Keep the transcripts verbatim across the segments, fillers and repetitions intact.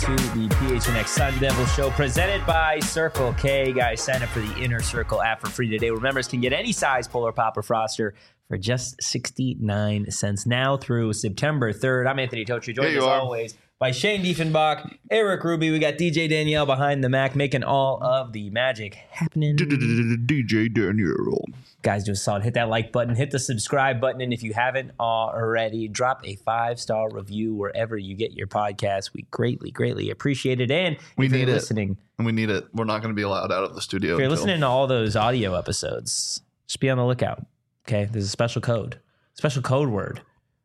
to the P H N X Sun Devil Show presented by Circle K. Guys, sign up for the Inner Circle app for free today. Members can get any size Polar Pop or Froster for just sixty-nine cents now through September third. I'm Anthony Totri, joined as are. always by Shane Diefenbach, Eric Ruby. We got D J Danielle behind the Mac making all of the magic happening. D J Danielle. Guys, do a solid. Hit that like button. Hit the subscribe button. And if you haven't already, drop a five-star review wherever you get your podcast. We greatly, greatly appreciate it. And We if you're need it. listening, And we need it. We're not going to be allowed out of the studio. if you're until- listening to all those audio episodes, just be on the lookout. Okay? There's a special code, special code word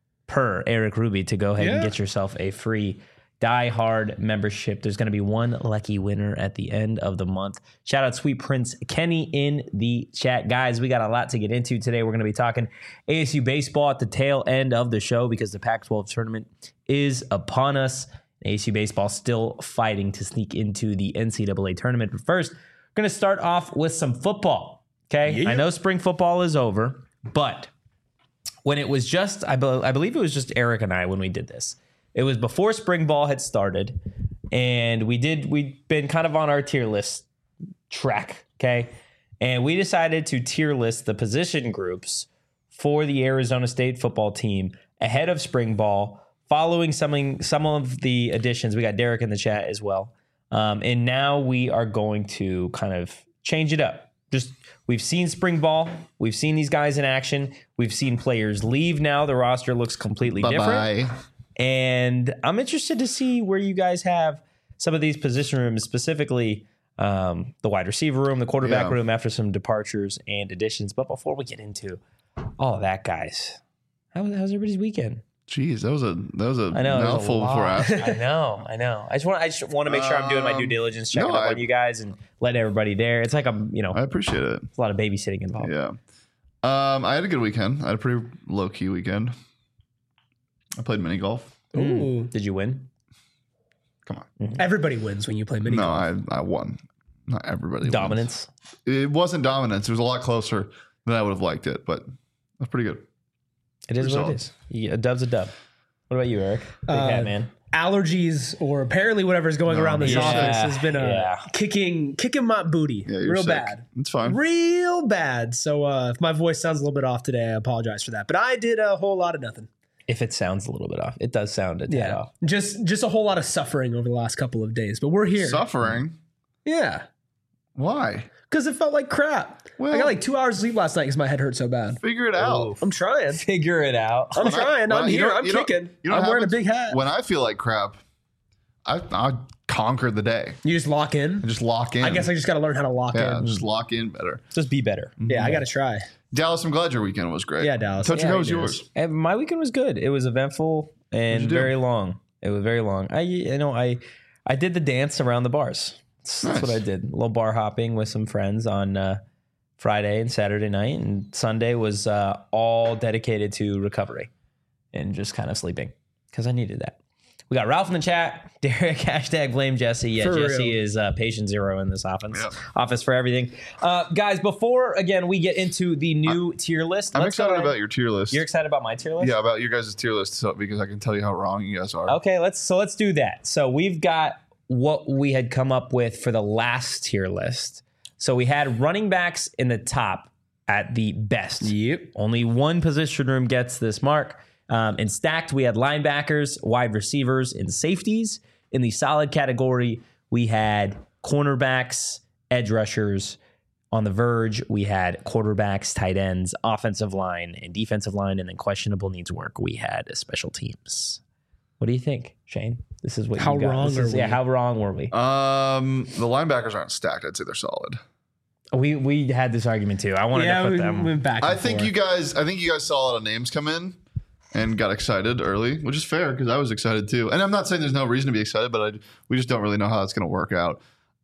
per Eric Ruby to go ahead and Yeah. get yourself a free Die Hard membership. There's going to be one lucky winner at the end of the month. Shout out Sweet Prince Kenny in the chat. Guys, we got a lot to get into today. We're going to be talking A S U baseball at the tail end of the show because the Pac twelve tournament is upon us. A S U baseball still fighting to sneak into the N C double A tournament. But first, we're going to start off with some football. Okay? Yeah. I know spring football is over, but when it was just, I, be- I believe it was just Eric and I when we did this. It was before spring ball had started, and we did, we'd been kind of on our tier list track, okay? And we decided to tier list the position groups for the Arizona State football team ahead of spring ball, following some, some of the additions. We got Derek in the chat as well. Um, and now we are going to kind of change it up. Just we've seen spring ball. We've seen these guys in action. We've seen players leave now. The roster looks completely different. Bye-bye. And I'm interested to see where you guys have some of these position rooms, specifically um, the wide receiver room, the quarterback Yeah. room after some departures and additions. But before we get into all of that, guys, how was, how was everybody's weekend? Jeez, that was a that was a I know it was a mouthful before lot. asking. I know, I know. I just want I just want to make sure I'm doing my due Um, diligence, checking no, up I- on you guys, and letting everybody there. It's like I'm, you know, I appreciate it. a lot of babysitting involved. Yeah. Um, I had a good weekend. I had a pretty low key weekend. I played mini golf. Ooh. Did you win? Come on. Everybody wins when you play mini No, golf. I I won. Not everybody. wins. Dominance. It wasn't dominance. It was a lot closer than I would have liked it, but that's pretty good. It is Pretty what solid. it is. You, a dub's a dub. What about you, Eric? Big Uh, hat man. Allergies or apparently whatever's going No, around this yeah, office has been uh, yeah. kicking kicking my booty Yeah, you're real sick. bad. It's fine. Real bad. So uh, if my voice sounds a little bit off today, I apologize for that. But I did a whole lot of nothing. If it sounds a little bit off, it does sound a tad Yeah. off. Just just a whole lot of suffering over the last couple of days. But we're here. Suffering. Yeah. Why? Because it felt like crap. Well- I got like two hours sleep last night because my head hurt so bad. Figure it out. I'm trying. Figure it out. I'm When I- trying. when I- I'm you here. don't- I'm you don't- kicking. you don't I'm have wearing a it- big hat. When I feel like crap, I I conquer the day. You just lock in. I just lock in. I guess I just got to learn how to lock yeah, in. just lock in better. Just be better. Yeah, I got to try. Dallas, I'm glad your weekend was great. Yeah, Dallas. Touch Yeah, how was it is. yours? And my weekend was good. It was eventful and you do? very long. It was very long. I you know I I did the dance around the bars. That's, that's Nice. what I did. A little bar hopping with some friends on uh, Friday and Saturday night, and Sunday was uh, all dedicated to recovery and just kind of sleeping because I needed that. We got Ralph in the chat. Derek, hashtag blame Jesse. Yeah, For Jesse real. is uh, patient zero in this offense, Yep. office for everything. Uh, guys, before, again, we get into the new tier list. I'm let's go excited ahead- about your tier list. You're excited about my tier list? yeah, about your guys' tier list so, because I can tell you how wrong you guys are. Okay, let's so let's do that. So we've got what we had come up with for the last tier list. So we had running backs in the top at the best. Yep. Only one position room gets this mark. Um, in stacked, we had linebackers, wide receivers, and safeties. In the solid category, we had cornerbacks, edge rushers. On the verge, we had quarterbacks, tight ends, offensive line, and defensive line. And then questionable needs work, we had special teams. What do you think, Shane? This is what How you got. wrong This are is- Yeah, we? how wrong were we? Um, the linebackers aren't stacked. I'd say they're solid. We we had this argument too. I wanted Yeah, to put we them. went back. I and think forth. you guys. I think you guys saw a lot of names come in and got excited early, which is fair because I was excited too. And I'm not saying there's no reason to be excited, but I, we just don't really know how it's going to work out.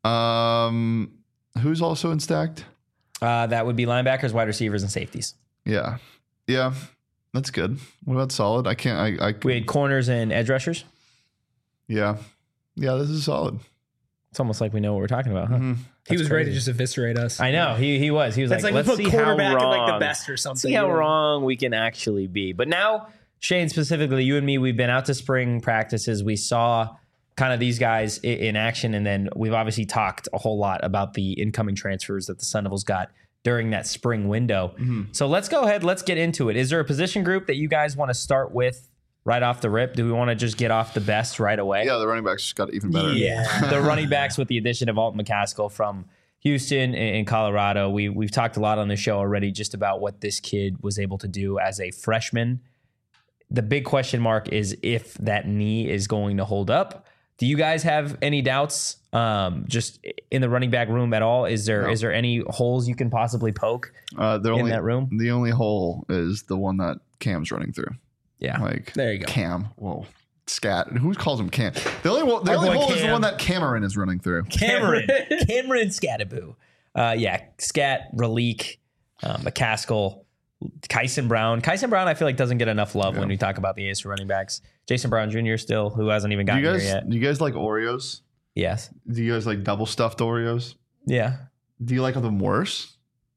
Um, who's also in stacked? Uh, that would be linebackers, wide receivers, and safeties. Yeah, yeah, that's good. What about solid? I can't. I. I We had corners and edge rushers. yeah, yeah. This is solid. It's almost like we know what we're talking about, huh? Mhm. he was That's ready to crazy. just eviscerate us. I know he he was. He was That's like, like, let's we see put how quarterback in wrong, like the best or something. see how you know? wrong we can actually be. But now, Shane, specifically, you and me, we've been out to spring practices. We saw kind of these guys in, in action. And then we've obviously talked a whole lot about the incoming transfers that the Sun Devils got during that spring window. Mm-hmm. So let's go ahead. Let's get into it. Is there a position group that you guys want to start with right off the rip? Do we want to just get off the best right away? Yeah, the running backs just got even better. Yeah, the running backs with the addition of Alton McCaskill from Houston and Colorado. We, we've talked a lot on the show already just about what this kid was able to do as a freshman. The big question mark is if that knee is going to hold up. Do you guys have any doubts um, just in the running back room at all? Is there no. is there any holes you can possibly poke uh, in only, that room? The only hole is the one that Cam's running through. Yeah. Like, there you go. Cam. Whoa. Scat. Who calls him Cam? The only, the only hole Cam. is the one that Cameron is running through. Cameron. Cameron Scataboo. Uh, yeah. Scat, Raleek, uh, McCaskill, Kyson Brown. Kyson Brown, I feel like, doesn't get enough love yeah. when we talk about the ace running backs. Jason Brown Junior still, who hasn't even gotten do you guys, here yet. Do you guys like Oreos? Yes. Do you guys like double stuffed Oreos? Yeah. Do you like them worse?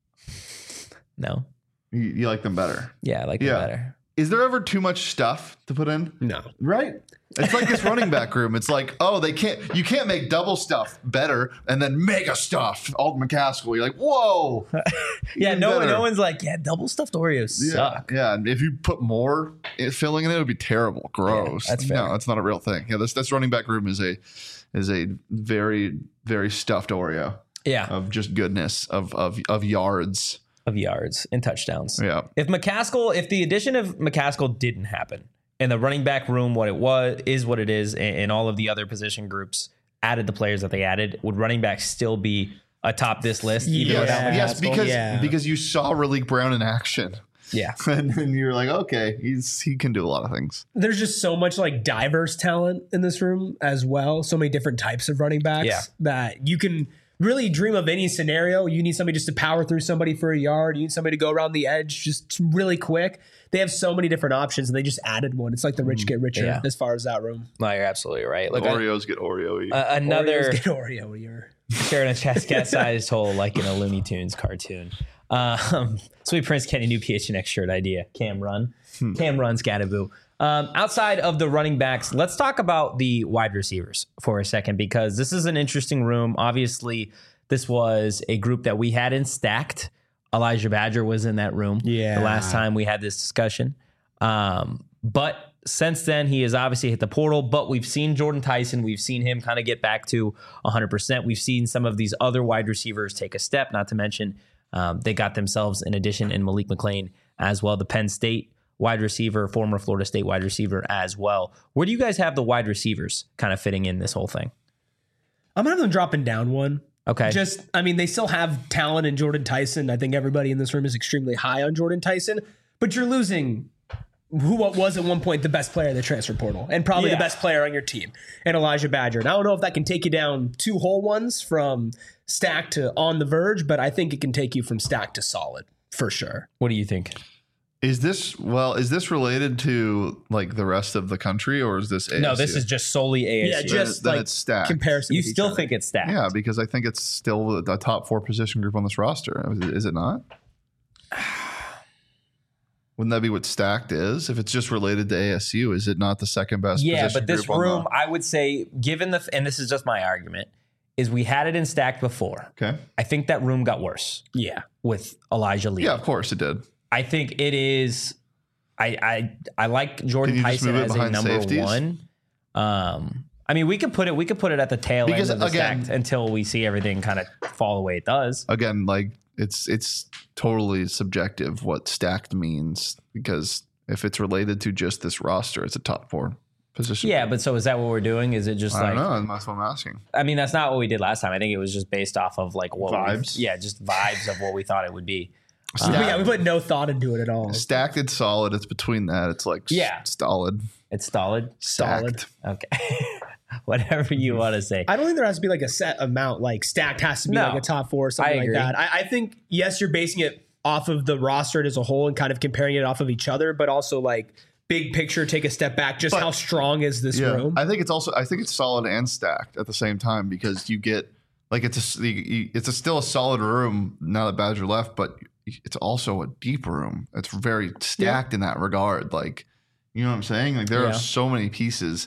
No. You, you like them better? Yeah, I like yeah. them better. Is there ever too much stuff to put in? No. Right? It's like this running back room. It's like, oh, they can't, you can't make double stuff better and then mega stuff. Alton McCaskill. You're like, whoa. yeah, no one, no one's like, yeah, double stuffed Oreos yeah, suck. Yeah, and if you put more filling in it, it would be terrible. Gross. Yeah, that's fair. No, that's not a real thing. Yeah, this this running back room is a is a very, very stuffed Oreo. Yeah. Of just goodness, of of of yards. Of yards and touchdowns. Yeah. If McCaskill, if the addition of McCaskill didn't happen and the running back room, what it was, is what it is, and, and all of the other position groups added the players that they added, would running back still be atop this list? Even yes, without McCaskill? yes, because yeah. because you saw Raleek Brown in action. Yeah. And then you're like, okay, he's he can do a lot of things. There's just so much like diverse talent in this room as well. So many different types of running backs yeah. that you can really dream of any scenario. You need somebody just to power through somebody for a yard. You need somebody to go around the edge just really quick. They have so many different options, and they just added one. It's like the rich get richer yeah. as far as that room. No, you're absolutely right. Look, Oreos I, get Oreo. Uh, another Oreos get Oreo. You're sharing a cat-sized hole like in a Looney Tunes cartoon. Um, Sweet Prince Kenny, new P H N X shirt idea. Cam Run. Hmm. Cam Run, Scataboo. Um, outside of the running backs, let's talk about the wide receivers for a second, because this is an interesting room. Obviously, this was a group that we hadn't stacked. Elijah Badger was in that room yeah. the last time we had this discussion. Um, but since then, he has obviously hit the portal, but we've seen Jordan Tyson. We've seen him kind of get back to one hundred percent. We've seen some of these other wide receivers take a step, not to mention um, they got themselves an addition in Malik McLean as well, the Penn State wide receiver, former Florida State wide receiver as well. Where do you guys have the wide receivers kind of fitting in this whole thing? I'm going to have them dropping down one. Okay. Just, I mean, they still have talent in Jordan Tyson. I think everybody in this room is extremely high on Jordan Tyson, but you're losing who what was at one point the best player in the transfer portal and probably yeah. the best player on your team, and Elijah Badger. And I don't know if that can take you down two whole ones from stacked to on the verge, but I think it can take you from stacked to solid for sure. What do you think? Is this, well, is this related to like the rest of the country, or is this A S U? No, this is just solely A S U. Yeah, just then like it's stacked. comparison. You with each still other. think it's stacked? Yeah, because I think it's still the top four position group on this roster. Is it, is it not? Wouldn't that be what stacked is? If it's just related to A S U, is it not the second best Yeah, position but this group on room, the- I would say, given the, and this is just my argument, is we had it in stacked before. Okay. I think that room got worse Yeah. with Elijah Lee. Yeah, of course it did. I think it is. I I I like Jordan Can you just Tyson move it as a behind number safeties? one. Um, I mean, we could put it. We could put it at the tail Because, end of the again- stacked until we see everything kind of fall the way it does. Again, like it's it's totally subjective what stacked means, because if it's related to just this roster, it's a top four position. Yeah, but so is that what we're doing? Is it just I like? don't know. That's what I'm asking. I mean, that's not what we did last time. I think it was just based off of like what we- Vibes? yeah, just vibes of what we thought it would be. But yeah, we put no thought into it at all. Stacked and solid. It's between that. It's like Yeah. s- solid. It's solid. Solid. Stacked. Okay. Whatever you want to say. I don't think there has to be like a set amount. Like stacked has to be No, like a top four or something I like agree. that. I, I think yes, you're basing it off of the roster as a whole and kind of comparing it off of each other, but also like big picture, take a step back. Just But- how strong is this Yeah, room? I think it's also I think it's solid and stacked at the same time, because you get like it's a you- it's a still a solid room now that Badger left, but it's also a deep room. It's very stacked in that regard. Like, you know what I'm saying? Like there Yeah. are so many pieces,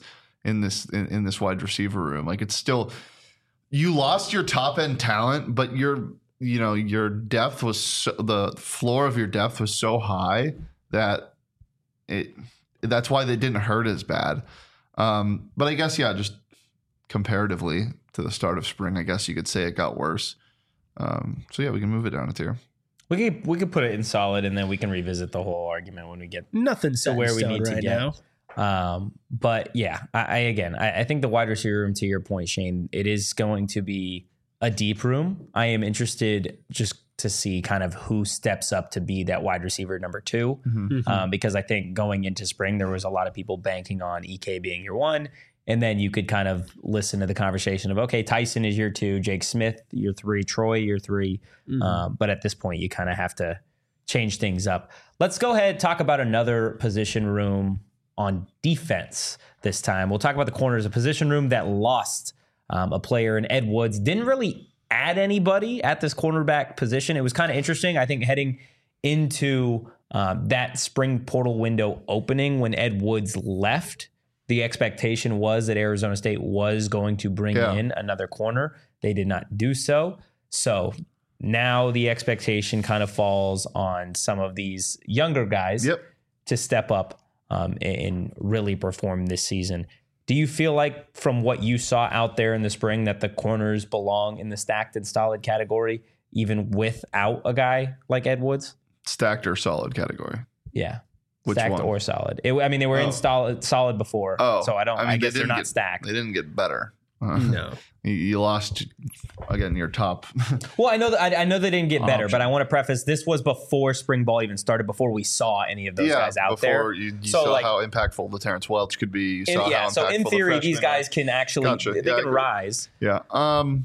in this in, in this wide receiver room. Like it's still, you lost your top end talent, but your you know your depth was so, the floor of your depth was so high that it that's why they didn't hurt as bad. Um, but I guess yeah, just comparatively to the start of spring, I guess you could say it got worse. Um, so yeah, we can move it down a tier. We could we could put it in solid, and then we can revisit the whole argument when we get Nothing set to where in we stone need to right get. now. Um, but yeah, I, I again, I, I think the wide receiver room, to your point, Shane, it is going to be a deep room. I am interested just to see kind of who steps up to be that wide receiver number two, Mm-hmm. um, because I think going into spring there was a lot of people banking on E K being your one. And then you could kind of listen to the conversation of, okay, Tyson is your two, Jake Smith, your three, Troy, your three. Mm-hmm. Um, but at this point, you kind of have to change things up. Let's go ahead and talk about another position room on defense this time. We'll talk about the corners, a position room that lost um, a player in Ed Woods. Didn't really add anybody at this cornerback position. It was kind of interesting, I think, heading into um, that spring portal window opening when Ed Woods left. The expectation was that Arizona State was going to bring Yeah. in another corner. They did not do so. So now the expectation kind of falls on some of these younger guys Yep. to step up um, and really perform this season. Do you feel like from what you saw out there in the spring that the corners belong in the stacked and solid category, even without a guy like Ed Woods? Stacked or solid category. Yeah. Which stacked one? or solid. It, I mean, they were Oh. in solid, solid before. Oh, so I don't. I, I mean, they guess they're didn't not get- stacked. They didn't get better. Uh, No. you, you lost again your top. Well, I know that I, I know they didn't get better, Option. but I want to preface this was before spring ball even started, before we saw any of those yeah, guys out before there. you, you So, saw like- how impactful the Terrence Welch could be. You In- saw yeah, how so in impactful the theory, these freshmen guys can actually Gotcha. they Yeah, I can agree. rise. are. Yeah. Um,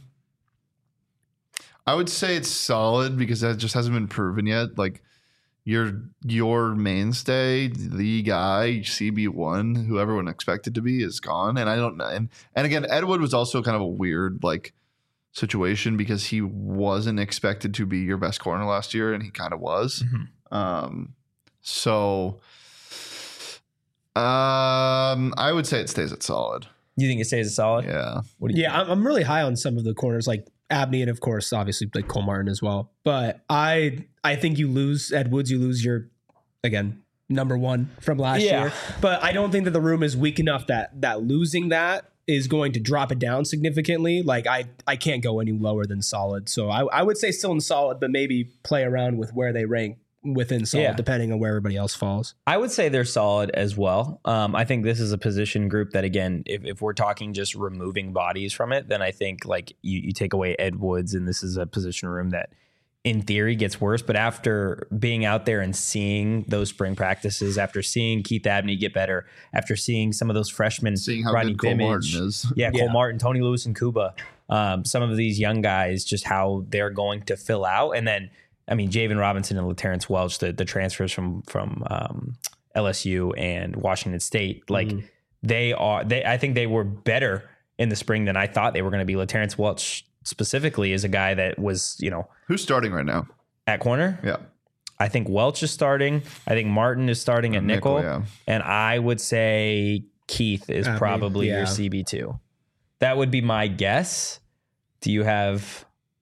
I would say it's solid because that just hasn't been proven yet. Like your your mainstay, the guy C B one, who everyone expected to be, is gone, and I don't know. And and again, Ed Wood was also kind of a weird like situation because he wasn't expected to be your best corner last year, and he kind of was. Mhm. Um, so um, I would say it stays at solid. You think it stays a solid? Yeah. What do you Yeah, I'm, I'm really high on some of the corners, like Abney and of course, obviously like Cole Martin as well. But I I think you lose Ed Woods, you lose your again number one from last Yeah. year. But I don't think that the room is weak enough that that losing that is going to drop it down significantly. Like I I can't go any lower than solid. So I, I would say still in solid, but maybe play around with where they rank within solid, Yeah. depending on where everybody else falls. I would say they're solid as well. Um, I think this is a position group that, again, if, if we're talking just removing bodies from it, then I think like you, you take away Ed Woods, and this is a position room that in theory gets worse. But after being out there and seeing those spring practices, after seeing Keith Abney get better, after seeing some of those freshmen, Seeing how Rodney good Cole Bimage, Martin is. yeah, Cole Yeah. Martin, Tony Lewis, and Kuba, um, some of these young guys, just how they're going to fill out. And then, I mean, Javen Robinson and LaTerrence Welch, the, the transfers from from um, L S U and Washington State, like Mhm. they are, they I think they were better in the spring than I thought they were going to be. LaTerrence Welch specifically is a guy that was, you know, Who's starting right now? at corner. Yeah. I think Welch is starting. I think Martin is starting at nickel. Nickel, yeah. And I would say Keith is Abney, probably yeah. your C B two. That would be my guess. Do you have...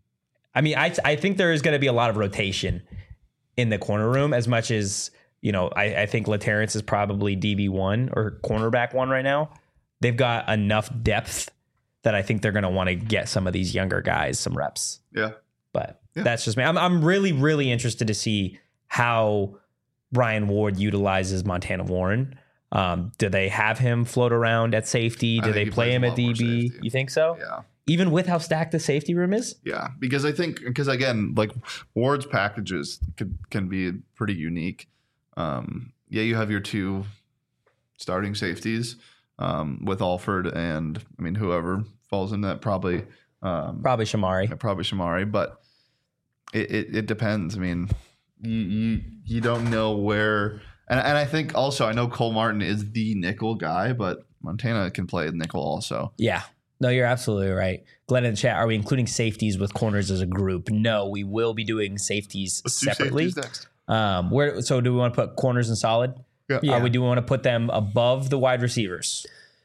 I mean, I I think there is going to be a lot of rotation in the corner room as much as, you know, I, I think LaTerrence is probably D B one or cornerback one right now. They've got enough depth that I think they're going to want to get some of these younger guys some reps. Yeah. But Yeah. that's just me. I'm I'm really, really interested to see how Brian Ward utilizes Montana Warren. Um, do they have him float around at safety? I Do think they he play plays him a at lot more D B? safety. You think so? Yeah. Even with how stacked the safety room is? Yeah, because I think because again, like Ward's packages could, can be pretty unique. Um, yeah, you have your two starting safeties um, with Alford and I mean whoever falls in that probably um, Probably Shamari. probably Shamari, but it, it, it depends. I mean, you, you you don't know where, and and I think also I know Cole Martin is the nickel guy, but Montana can play nickel also. Yeah. No, you're absolutely right. Glenn in the chat, are we including safeties with corners as a group? No, we will be doing safeties Let's do separately. safeties next. Um, where so do we want to put corners in solid? Yeah. Yeah. Are we do we want to put them above the wide receivers?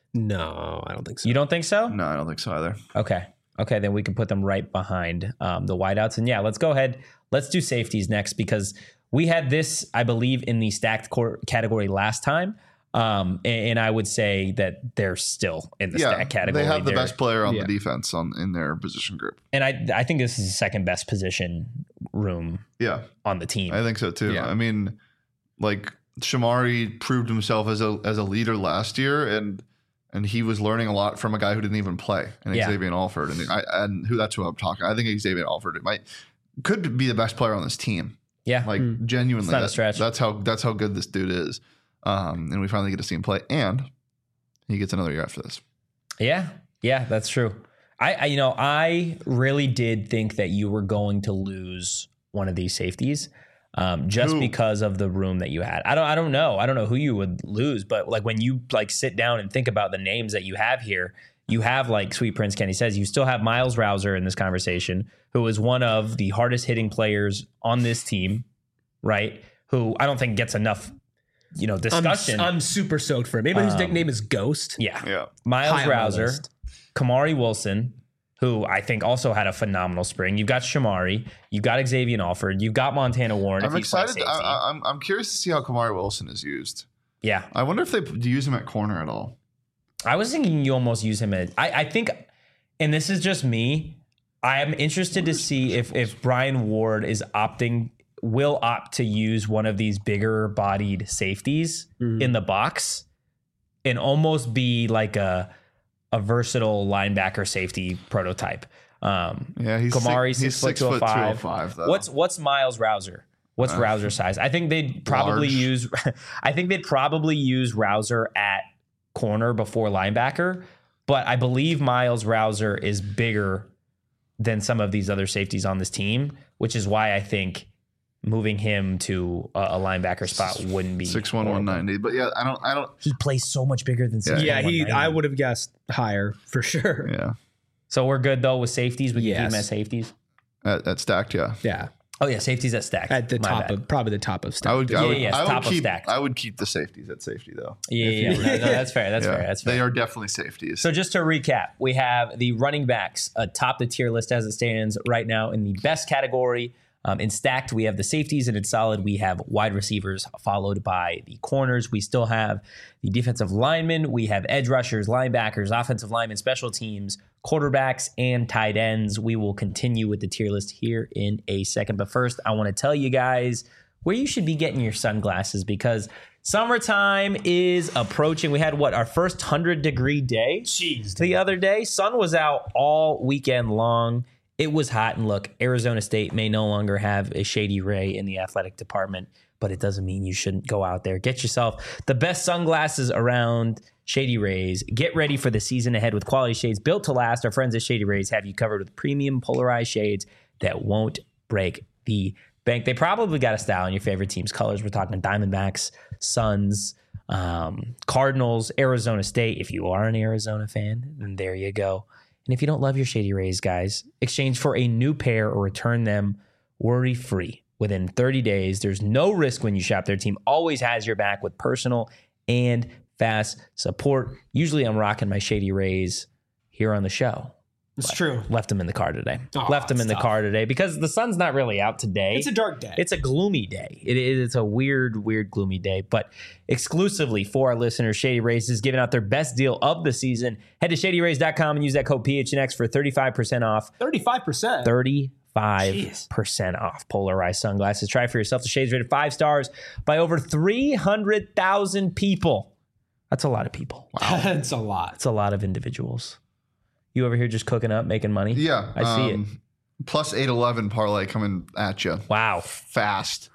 No, I don't think so. You don't think so? No, I don't think so either. Okay. Okay, then we can put them right behind um, the wideouts. And yeah, let's go ahead. Let's do safeties next because we had this, I believe, in the stacked court category last time. Um, and, and I would say that they're still in the Yeah, stacked category. they have the They're- best player on Yeah. the defense on in their position group. And I, I think this is the second best position room Yeah, on the team. I think so too. Yeah. I mean, like Shamari proved himself as a as a leader last year, and and he was learning a lot from a guy who didn't even play, and Yeah. Xavier Alford, and I and who that's who I'm talking. I think Xavier Alford might could be the best player on this team. yeah. Like Hmm. genuinely, It's not a that- stretch. That's how that's how good this dude is. Um, and we finally get to see him play, and he gets another year after this. Yeah, yeah, that's true. I, I, you know, I really did think that you were going to lose one of these safeties, um, just Who? because of the room that you had. I don't, I don't know, I don't know who you would lose, but like when you like sit down and think about the names that you have here, you have like Sweet Prince Kenny says, you still have Miles Rouser in this conversation, who is one of the hardest hitting players on this team, right? Who I don't think gets enough, you know, I'm, discussion. I'm super stoked for him. Maybe his Um, nickname is Ghost. yeah, Yeah, Miles High on my Rouser. list. Kamari Wilson, who I think also had a phenomenal spring. You've got Shamari, you've got Xavier Alford, you've got Montana Warren. I'm if he's playing excited. safety. I, I, I'm I'm curious to see how Kamari Wilson is used. yeah, I wonder if they p- use him at corner at all. I was thinking you almost use him as. I, I think, and this is just me. I am interested to see if if Brian Ward is opting, will opt to use one of these bigger bodied safeties Mhm. in the box, and almost be like a a versatile linebacker safety prototype. Um, Yeah, he's Kamari, six, six he's foot six two oh foot two five. oh five. Though. What's what's Miles Rouser? What's Uh, Rouser size? I think they'd probably large. use. I think they'd probably use Rouser at corner before linebacker, but I believe Miles Rouser is bigger than some of these other safeties on this team, which is why I think moving him to a, a linebacker spot wouldn't be six one one horrible. ninety? But yeah, I don't. I don't. He plays so much bigger than six. Yeah, he. I would have guessed higher for sure. Yeah, So we're good though with safeties. We can keep Yes. them as safeties. at, at stacked. Yeah, Yeah, Oh yeah, safeties at stack. at the My top bad. of probably the top of stack. I would. I Yeah, would, yeah, I would top of keep. stacked. I would keep the safeties at safety though. Yeah, If yeah, you yeah. were- No, no, that's fair. That's Yeah, fair. That's fair. They are definitely safeties. So just to recap, we have the running backs atop the tier list as it stands right now in the best category. Um, in stacked, we have the safeties, and in solid, we have wide receivers, followed by the corners. We still have the defensive linemen. We have edge rushers, linebackers, offensive linemen, special teams, quarterbacks, and tight ends. We will continue with the tier list here in a second. But first, I want to tell you guys where you should be getting your sunglasses because summertime is approaching. We had what, our first one hundred degree day Jeez, the other day. Sun was out all weekend long. It was hot. And look, Arizona State may no longer have a Shady Ray in the athletic department, but it doesn't mean you shouldn't go out there. Get yourself the best sunglasses around. Shady Rays. Get ready for the season ahead with quality shades built to last. Our friends at Shady Rays have you covered with premium polarized shades that won't break the bank. They probably got a style in your favorite team's colors. We're talking Diamondbacks, Suns, um, Cardinals, Arizona State. If you are an Arizona fan, then there you go. And if you don't love your Shady Rays, guys, exchange for a new pair or return them worry-free within thirty days. There's no risk when you shop. Their team always has your back with personal and fast support. Usually I'm rocking my Shady Rays here on the show. it's true. Left them in the car today. Aw, Left them in it's the tough. car today because the sun's not really out today. It's a dark day. It's a gloomy day. It is it's a weird, weird, gloomy day. But exclusively for our listeners, Shady Rays is giving out their best deal of the season. Head to shady rays dot com and use that code P H N X for thirty-five percent off. thirty-five percent. thirty-five percent off polarized sunglasses. Try for yourself. The shades rated five stars by over three hundred thousand people. That's a lot of people. That's a lot. That's a lot of individuals. You over here just cooking up, making money? Yeah, I see it. it. Plus eight eleven parlay coming at you Wow. fast.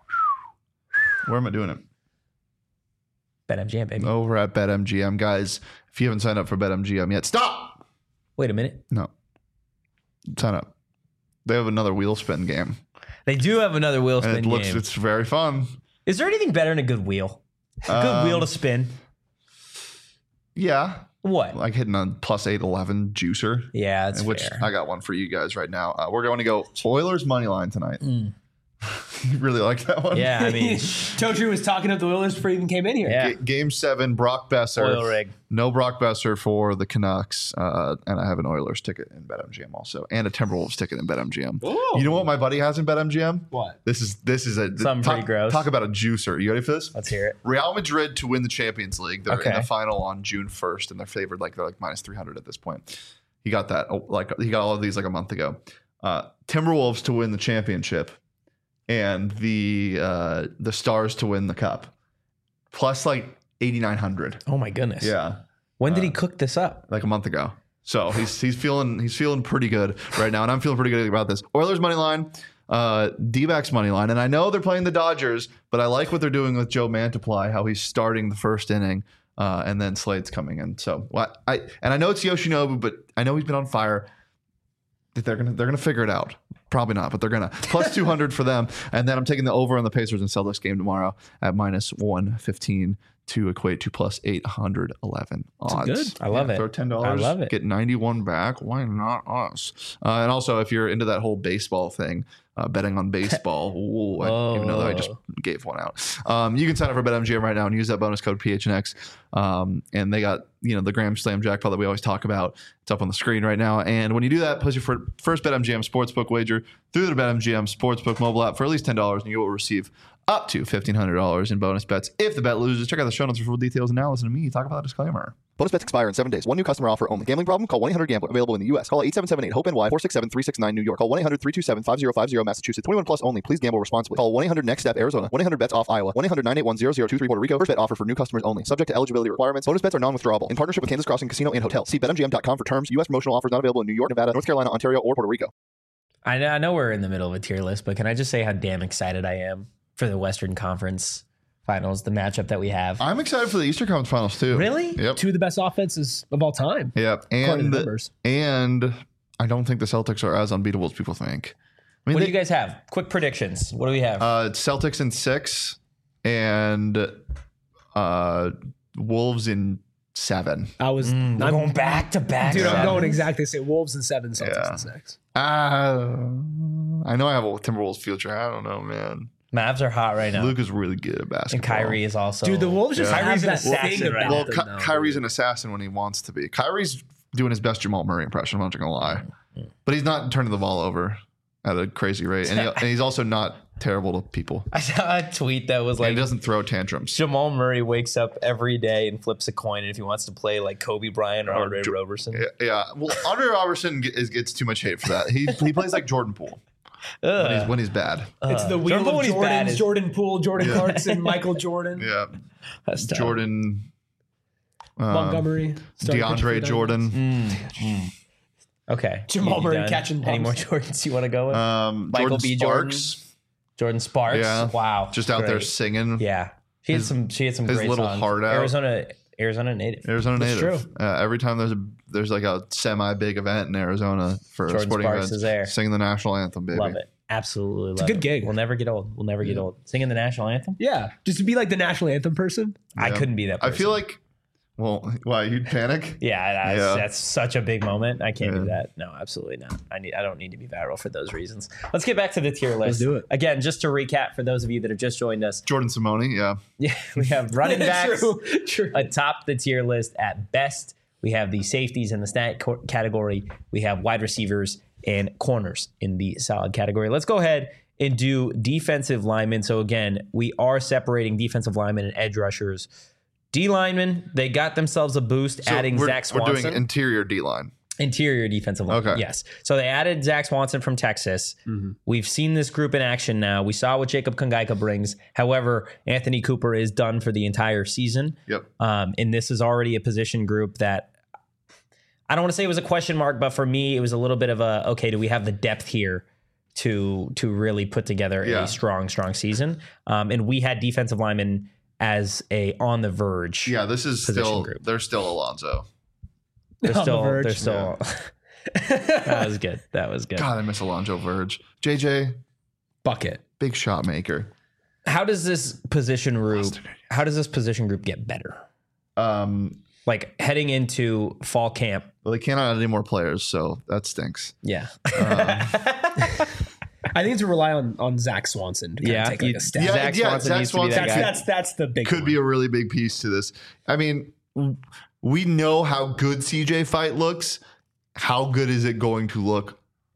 Where am I doing it? BetMGM, baby. Over at BetMGM, guys. If you haven't signed up for BetMGM yet, stop. Wait a minute. No, sign up. They have another wheel spin game, They do have another wheel and spin it looks game. it's very fun. Is there anything better than a good wheel? A good Um, wheel to spin. Yeah, What? like hitting a plus eight eleven juicer. Yeah, that's which fair. I got one for you guys right now. Uh, we're going to go Oilers money line tonight. Mm. You really like that one? Yeah, I mean, Totri was talking up the Oilers before he even came in here. yeah. G- Game seven, Brock Besser. Oil rig. No Brock Besser for the Canucks. Uh, and I have an Oilers ticket in BetMGM also. And a Timberwolves ticket in BetMGM. Ooh. You know what my buddy has in BetMGM? What? This is this is a Something talk, pretty gross. Talk about a juicer. You ready for this? Let's hear it. Real Madrid to win the Champions League. They're in Okay. the final on June first, and they're favored like they're like minus three hundred at this point. He got that oh, like he got all of these like a month ago. Uh, Timberwolves to win the championship, and the uh, the Stars to win the cup, plus like eighty-nine hundred. Oh my goodness. Yeah, When did he cook this up? like a month ago. So he's he's feeling he's feeling pretty good right now, and I'm feeling pretty good about this. Oilers money line, uh, D-backs money line, and I know they're playing the Dodgers, but I like what they're doing with Joe Mantiply, how he's starting the first inning, uh, and then Slade's coming in. So what I and I know it's Yoshinobu, but I know he's been on fire. They're gonna they're gonna figure it out. Probably not, but they're gonna plus two hundred for them. And then I'm taking the over on the Pacers and Celtics game tomorrow at minus one fifteen to equate to plus eight hundred eleven odds. good. I love it. Throw ten I dollars. love it. Get ninety-one back. Why not us? Uh, and also, if you're into that whole baseball thing, uh, betting on baseball, ooh, I, even though I just gave one out, um, you can sign up for BetMGM right now and use that bonus code P H N X. Um, and they got you know the Grand Slam jackpot that we always talk about. It's up on the screen right now. And when you do that, place your fir- first BetMGM sportsbook wager through the BetMGM sportsbook mobile app for at least ten dollars, and you will receive up to fifteen hundred dollars in bonus bets if the bet loses. Check out the show notes for full details and now listen to me talk about the disclaimer. Bonus bets expire in seven days. One new customer offer only. Gambling problem? Call one eight hundred gambler. Available in the U S. Call eight seven seven eight hope N Y four six seven three six nine New York. Call one eight hundred three two seven five zero five zero Massachusetts. twenty-one plus only. Please gamble responsibly. Call one eight hundred next step Arizona. one eight hundred bets off Iowa. one eight hundred nine eight one zero zero two three Puerto Rico. First bet offer for new customers only. Subject to eligibility requirements. Bonus bets are non-withdrawable. In partnership with Kansas Crossing Casino and Hotel. See bet M G M dot com for terms. U S promotional offers not available in New York, Nevada, North Carolina, Ontario, or Puerto Rico. I know, I know we're in the middle of a tier list, but can I just say how damn excited I am for the Western Conference Finals, the matchup that we have? I'm excited for the Eastern Conference Finals too. Really? Yep. Two of the best offenses of all time. Yep. According to And numbers. and I don't think the Celtics are as unbeatable as people think. I mean, What they, do you guys have? Quick predictions. What do we have? uh, Celtics in six and uh, Wolves in seven. I was Mm, we're I'm going back to back. Dude, I'm Yeah. going exactly the same. Wolves in seven, Celtics Yeah. in six. Uh, I know I have a Timberwolves future. I don't know, man. Mavs are hot right now. Luke is really good at basketball. And Kyrie is also. Dude, the Wolves just Yeah. have Kyrie's an that thing assassin right about Well, them, Ky- though, Kyrie's dude. an assassin when he wants to be. Kyrie's doing his best Jamal Murray impression. I'm not gonna lie, but he's not turning the ball over at a crazy rate, and, he, and he's also not terrible to people. I saw a tweet that was And like he doesn't throw tantrums. Jamal Murray wakes up every day and flips a coin, and if he wants to play like Kobe Bryant or Or Andre Jo- Roberson, Yeah, yeah. Well, Andre Robertson ge- is, gets too much hate for that. He he plays like Jordan Poole when he's, when he's bad. It's the Uh, wheel Jordan Poole of when he's bad Jordans, is- Jordan Poole, Jordan Clarkson, Michael Jordan, Yeah, that's tough. Jordan, um, Montgomery, starting pitcher for DeAndre the Jordan, Mm, Okay, Jamal You Murray done? catching Any more bumps. Jordans you want to go with? um, Michael Jordan B. Jordan? Sparks, Jordan Sparks. yeah. Wow, just out there Great. singing. Yeah, she had His- some. She had some his great little songs. heart out. Arizona, Arizona native. Arizona That's native. true. Uh, every time there's a there's like a semi big event in Arizona for Jordan a sporting Sparks event, is there. singing the national anthem, baby. Love it. Absolutely love a good it. gig. We'll never get old. We'll never get old. Singing the national anthem. Yeah, just to be like the national anthem person. I Yeah. couldn't be that I person. feel like, well, why you'd panic? Yeah, that's, Yeah. that's such a big moment. I can't do Yeah. that. No, absolutely not. I need. I don't need to be viral for those reasons. Let's get back to the tier list. do it. Again, just to recap for those of you that have just joined us. Jordan Simone, yeah. Yeah, we have running backs True, true. atop the tier list at best. We have the safeties in the stat co- category. We have wide receivers and corners in the solid category. Let's go ahead and do defensive linemen. So again, we are separating defensive linemen and edge rushers. D linemen, they got themselves a boost, So adding we're, Zach we're Swanson. doing interior D line. Interior defensive line. Okay. Yes. So they added Zach Swanson from Texas. We've seen this group in action now. We saw what Jacob Kongaika brings. However, Anthony Cooper is done for the entire season. Yep. Um, and this is already a position group that I don't want to say it was a question mark, but for me, it was a little bit of a, okay, do we have the depth here to to really put together Yeah. a strong, strong season? Um, and we had defensive linemen as a on the verge. Yeah, this is Position still group. they're still Alonzo. They're On the still, verge. they're still, that was good. That was good. God, I miss Alonzo Verge. J J, Bucket. big shot maker. How does this position group? How does this position group get better? Um, Like heading into fall camp. well, they can't add any more players, so that stinks. Yeah. I think to rely on on Zach Swanson to kind Yeah, of take like you- a step. Yeah, Zach yeah, Swanson Zach needs to be that Swanson that's guy. that's that's the big could one. be a really big piece to this. I mean, w- we know how good C J Fight looks. How good is it going to look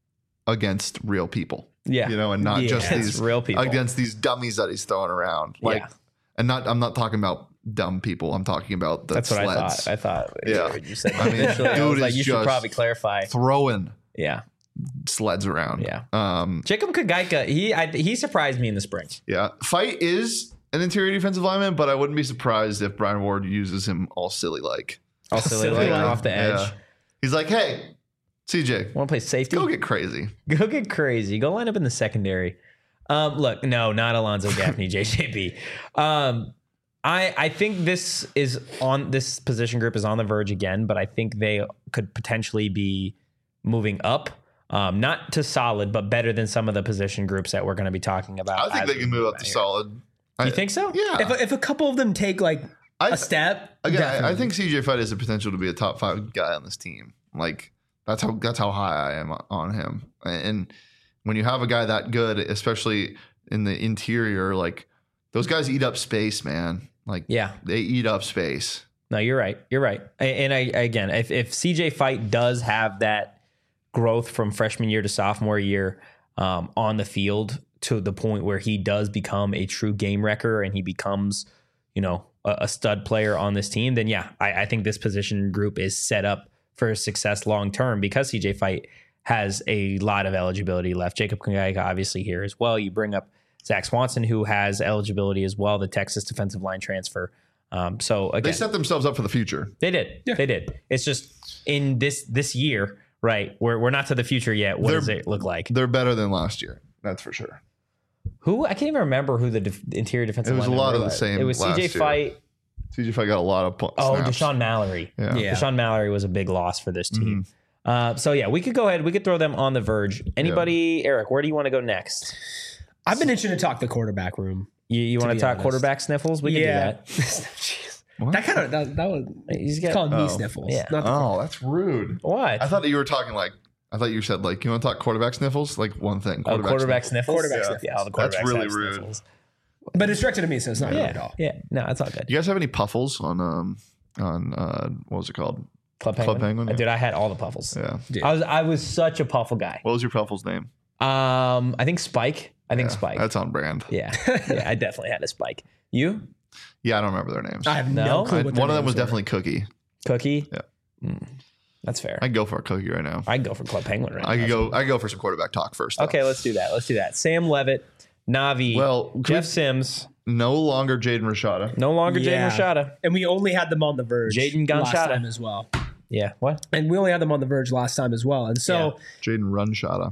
against real people? Yeah. You know, and not Yeah. just Against these real people. against these dummies that he's throwing around. Like, Yeah. and not I'm not talking about dumb people. I'm talking about the That's what sleds. I thought. I thought. Yeah. When you said I mean, initially, I dude was like, is you should just probably clarify. throwing Yeah. sleds around. Yeah. Um, Jacob Kagaika, he I, he surprised me in the spring. yeah. Fight is an interior defensive lineman, but I wouldn't be surprised if Brian Ward uses him all silly like. All silly, Silly like, like. off the edge. Yeah. He's like, hey, C J, Want to play safety? go get crazy. Go get crazy. Go line up in the secondary. Um, look, no, not Alonzo Gaffney, J J B. Um, I I think this is on this position group is on the verge again, but I think they could potentially be moving up. Um, not to solid, but better than some of the position groups that we're going to be talking about. I think as they we can move up out to here. solid. You think so? Yeah. If, if a couple of them take like I, a step, again, I, I definitely. think C J Fight has the potential to be a top five guy on this team. Like that's how that's how high I am on him. And when you have a guy that good, especially in the interior, like those guys eat up space, man. Like Yeah. they eat up space. No, you're right. You're right. And I again, if if C J Fight does have that growth from freshman year to sophomore year um, on the field to the point where he does become a true game wrecker and he becomes, you know, a, a stud player on this team, then yeah, I, I think this position group is set up for success long term because C J Fight has a lot of eligibility left. Jacob Kagaika obviously here as well. You bring up Zach Swanson, who has eligibility as well, the Texas defensive line transfer. Um, so again, They set themselves up for the future. They did. They did. It's just in this this year, right? We're we're not to the future yet. What They're- does it look like? They're better than last year. That's for sure. Who I can't even remember who the def, interior defensive. It was a linemen lot were of the like. same It was C last J year. Fight. C J Fight got a lot of po- Oh, snaps. Deshaun Mallory. Yeah. Yeah. Deshaun Mallory was a big loss for this team. Mm-hmm. Uh, so yeah, we could go ahead. We could throw them on the verge. Anybody, Eric? Where do you want to go next? I've been itching to talk the quarterback room. You, you want to be talk honest. quarterback sniffles? We can do that. Jeez. What? That kind of that, that was He's it's got called oh, knee sniffles. yeah. Not the Oh, that's rude. what? I thought that you were talking like I thought you said like you want to talk quarterback sniffles, like one thing. Oh, quarterback sniffles. sniffles. Quarterback yeah. sniffles. Yeah, all the That's quarterbacks really have rude. sniffles. but it's directed to me, so it's not rude Yeah, at all. yeah. No, it's all good. You guys have any puffles on um on uh what was it called? Club Penguin. Club Penguin, Uh, yeah. Dude, I had all the puffles. Yeah. Dude. I was I was such a puffle guy. What was your puffles name? Um, I think Spike. I think Yeah, Spike. That's on brand. yeah, yeah. I definitely had a Spike. You, Yeah, I don't remember their names. I have no, No? clue I- what their one of them names was were. definitely Cookie. Cookie. Yeah. Mm, that's fair. I'd go for a Cookie right now. I'd go for Club Penguin right I now. could go. I go for some quarterback talk first. though. Okay, let's do that. Let's do that. Sam Levitt, Navi, Well, could Jeff we- Sims, No longer Jaden Rashada. no longer Yeah. Jaden Rashada. And we only had them on the verge Jaden last Gonchada. time as well. Yeah. What? And we only had them on the verge last time as well. And so Jaden Runshada.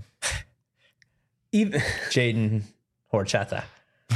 even Jaden Horchata.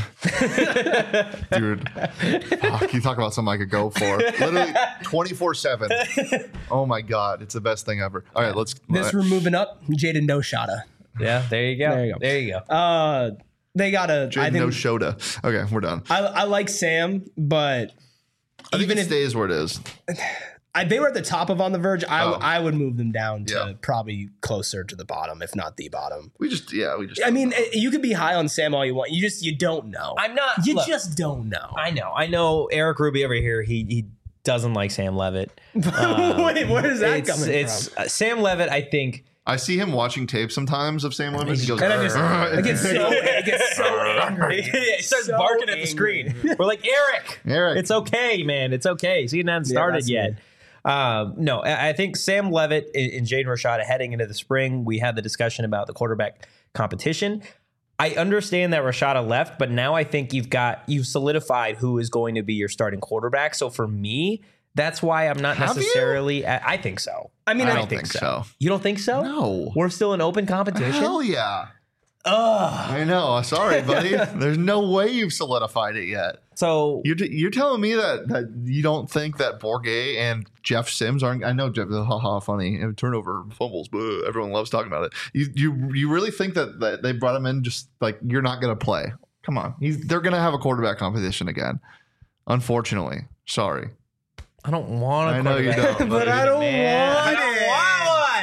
Dude, fuck, you talk about something I could go for. Literally twenty-four seven. Oh my God. It's the best thing ever. All right, let's. this we're moving up, Jaden No Shada. Yeah. There you go. There you go. There you go. Uh they got a I Jaden think no Shoda. Okay, we're done. I, I like Sam, but I think even it if stays where it is. I, they were at the top of On the Verge, I, Oh. I would move them down to Yeah. probably closer to the bottom, if not the bottom. We just, yeah, we just. I mean, eh, you could be high on Sam all you want. You just you don't know. I'm not. you look, just don't know. I know. I know. Eric Ruby over here. He he doesn't like Sam Levitt. Um, Wait, where is that it's, coming it's, from? uh, Sam Levitt, I think. I see him watching tape sometimes of Sam Levitt. He goes, And I just "Arr." I get so I get so angry. He starts So barking at the angry. screen. We're like, Eric, Eric. it's okay, man. It's okay. Season hasn't Yeah, started that's yet. me. Um, no, I I think Sam Levitt and and Jaden Rashada heading into the spring, we had the discussion about the quarterback competition. I understand that Rashada left, but now I think you've got you've solidified who is going to be your starting quarterback. So for me, that's why I'm not Have you? necessarily. I, I think so. I mean, I I don't think so. You don't think so? No. We're still in open competition. Hell yeah. Ugh. I know. Sorry, buddy. There's no way you've solidified it yet. So You're, t- you're telling me that, that you don't think that Bourget and Jeff Sims aren't. I know Jeff, haha, funny. Turnover, fumbles, blah, everyone loves talking about it. You you you really think that, that they brought him in just like you're not going to play? Come on. He's, they're going to have a quarterback competition again. Unfortunately. Sorry. I don't want. I know you don't, but I don't Man, want I don't it. want one.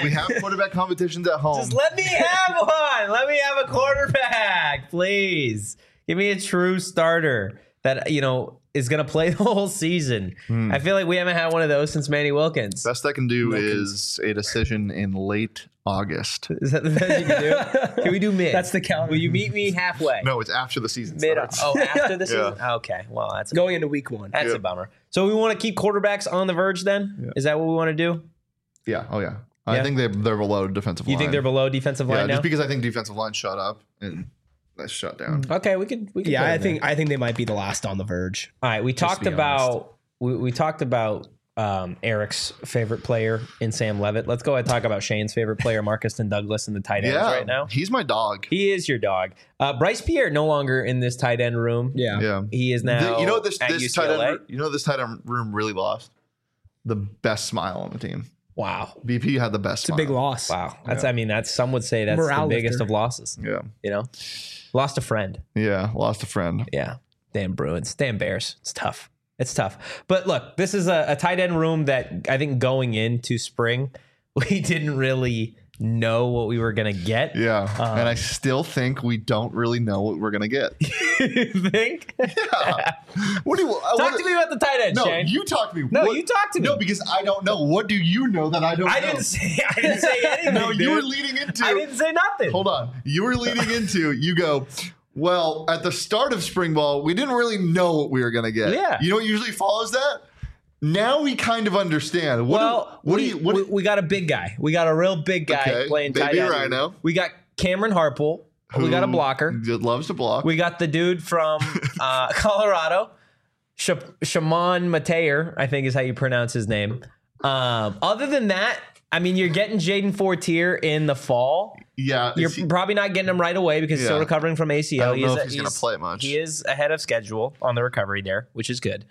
We have quarterback competitions at home. Just let me have one. Let me have a quarterback, please. Give me a true starter that, you know, is going to play the whole season. Hmm. I feel like we haven't had one of those since Manny Wilkins. Best I can do Wilkins. is a decision in late August. Is that the best you can do? Can we do mid? That's the count. Will you meet me halfway? No, it's after the season Mid. starts. Oh, after the Yeah. season? Okay. Well, that's a, Going into week one. that's Yeah. a bummer. So we want to keep quarterbacks on the verge then? Yeah. Is that what we want to do? Yeah. Oh, yeah. I Yeah. think they, they're below defensive You line. think they're below defensive Yeah, line now? just because I think defensive line shut up and that's shut down. Okay, we could. We could Yeah, put I it think there. I think they might be the last on the verge. All right, we to talked be about we, we talked about um, Eric's favorite player in Sam Levitt. Let's go ahead and talk about Shane's favorite player, Marcus and Douglas, in the tight ends Yeah. right now. He's my dog. He is your dog. Uh, Bryce Pierre no longer in this tight end room. Yeah. Yeah. He is The- now. you know what this at this U C L A? tight end you know what this tight end room really lost? The best smile on the team. Wow, B P had the best. It's a big loss. wow. That's. I mean, that's some would say that's Morale the biggest lifter. of losses. Yeah. You know, lost a friend. Yeah. Lost a friend. Yeah. Damn Bruins. Damn Bears. It's tough. It's tough. But look, this is a, a tight end room that I think going into spring, we didn't really know what we were going to get. Yeah. Um, and I still think we don't really know what we're gonna get. You think? Yeah. What do you uh, Talk what- to me about the tight end, No, Shane. you talk to me. No, What- you talk to me. No, because I don't know. What do you know that I don't I know? didn't say I didn't say anything. No, you dude. were leading into. I didn't say nothing. Hold on. You were leading into, you go, well, at the start of spring ball, we didn't really know what we were going to get. Yeah. You know what usually follows that? Now we kind of understand. What Well, do, what we, do you, what we, do- we got a big guy. We got a real big guy Okay, playing baby tight end. Rhino. We got Cameron Harpole. We got a who blocker. loves to block. We got the dude from uh, Colorado, Sh- Shaman Mateer, I think is how you pronounce his name. Um, other than that, I mean, you're getting Jaden Fortier in the fall. yeah. You're is he- probably not getting him right away because he's Yeah. still recovering from A C L. I don't know is, if he's gonna play much. He is ahead of schedule on the recovery there, which is good.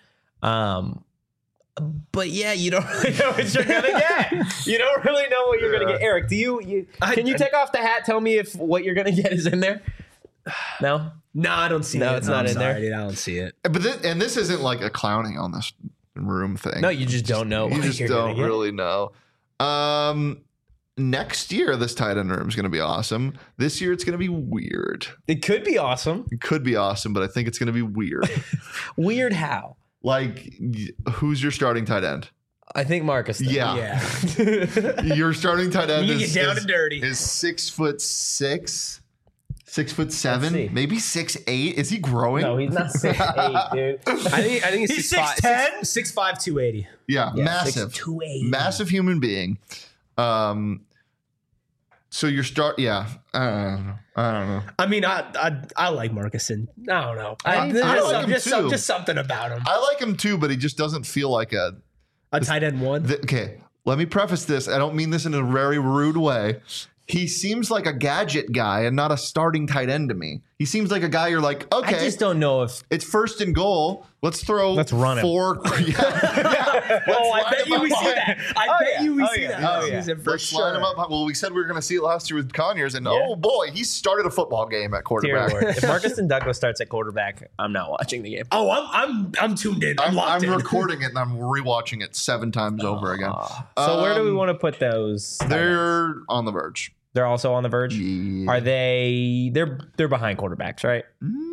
Um, but yeah, you don't really know what you're gonna get. You don't really know what you're gonna Yeah. get. Eric, do you? you I- can you take off the hat? Tell me if what you're gonna get is in there. No. No, I don't see No, it. it's not I'm in there. sorry, dude, I don't see it. but this, and this isn't like a clowning on this room thing. No, you just don't know You what just you're gonna don't get. really know. Um, next year, this tight end room is going to be awesome. This year, it's going to be weird. It could be awesome. It could be awesome, but I think it's going to be weird. Weird how? Like, y- who's your starting tight end? I think Marcus. did. Yeah. Yeah. Your starting tight end You is, get down is, and dirty. is six foot six, six foot see. seven, maybe six eight. Is he growing? No, he's not six eight, dude. I think I think he's He's six five, six ten? six, six five, two eighty. yeah, Yeah, massive, six two eight. massive human being. Um, so your start, yeah, I don't know, I don't know. I mean, I I, I like Marcuson. I don't know. I- I, I there's like some- him just, some- too. just something about him. I like him too, but he just doesn't feel like a. A tight end one. The, okay, let me preface this. I don't mean this in a very rude way. He seems like a gadget guy and not a starting tight end to me. He seems like a guy you're like, I okay, just don't know if. it's first and goal. Let's throw Let's run him. four. Yeah, yeah. Oh, I line bet him you up we see behind- that. I Oh, bet yeah. you we Oh, see yeah. that Oh, this yeah. season for Let's sure. line him up. Well, we said we were going to see it last year with Conyers, and Yeah. oh boy, he started a football game at Dear quarterback. Lord. If Marcus and Douglas starts at quarterback, I'm not watching the game. Oh, I'm I'm I'm tuned in. I'm, I'm, locked I'm in. recording it and I'm rewatching it seven times over again. So where do we Um, want to put those? tight ends? They're on the verge. They're also on the verge. Yeah. Are they? They're they're behind quarterbacks, right?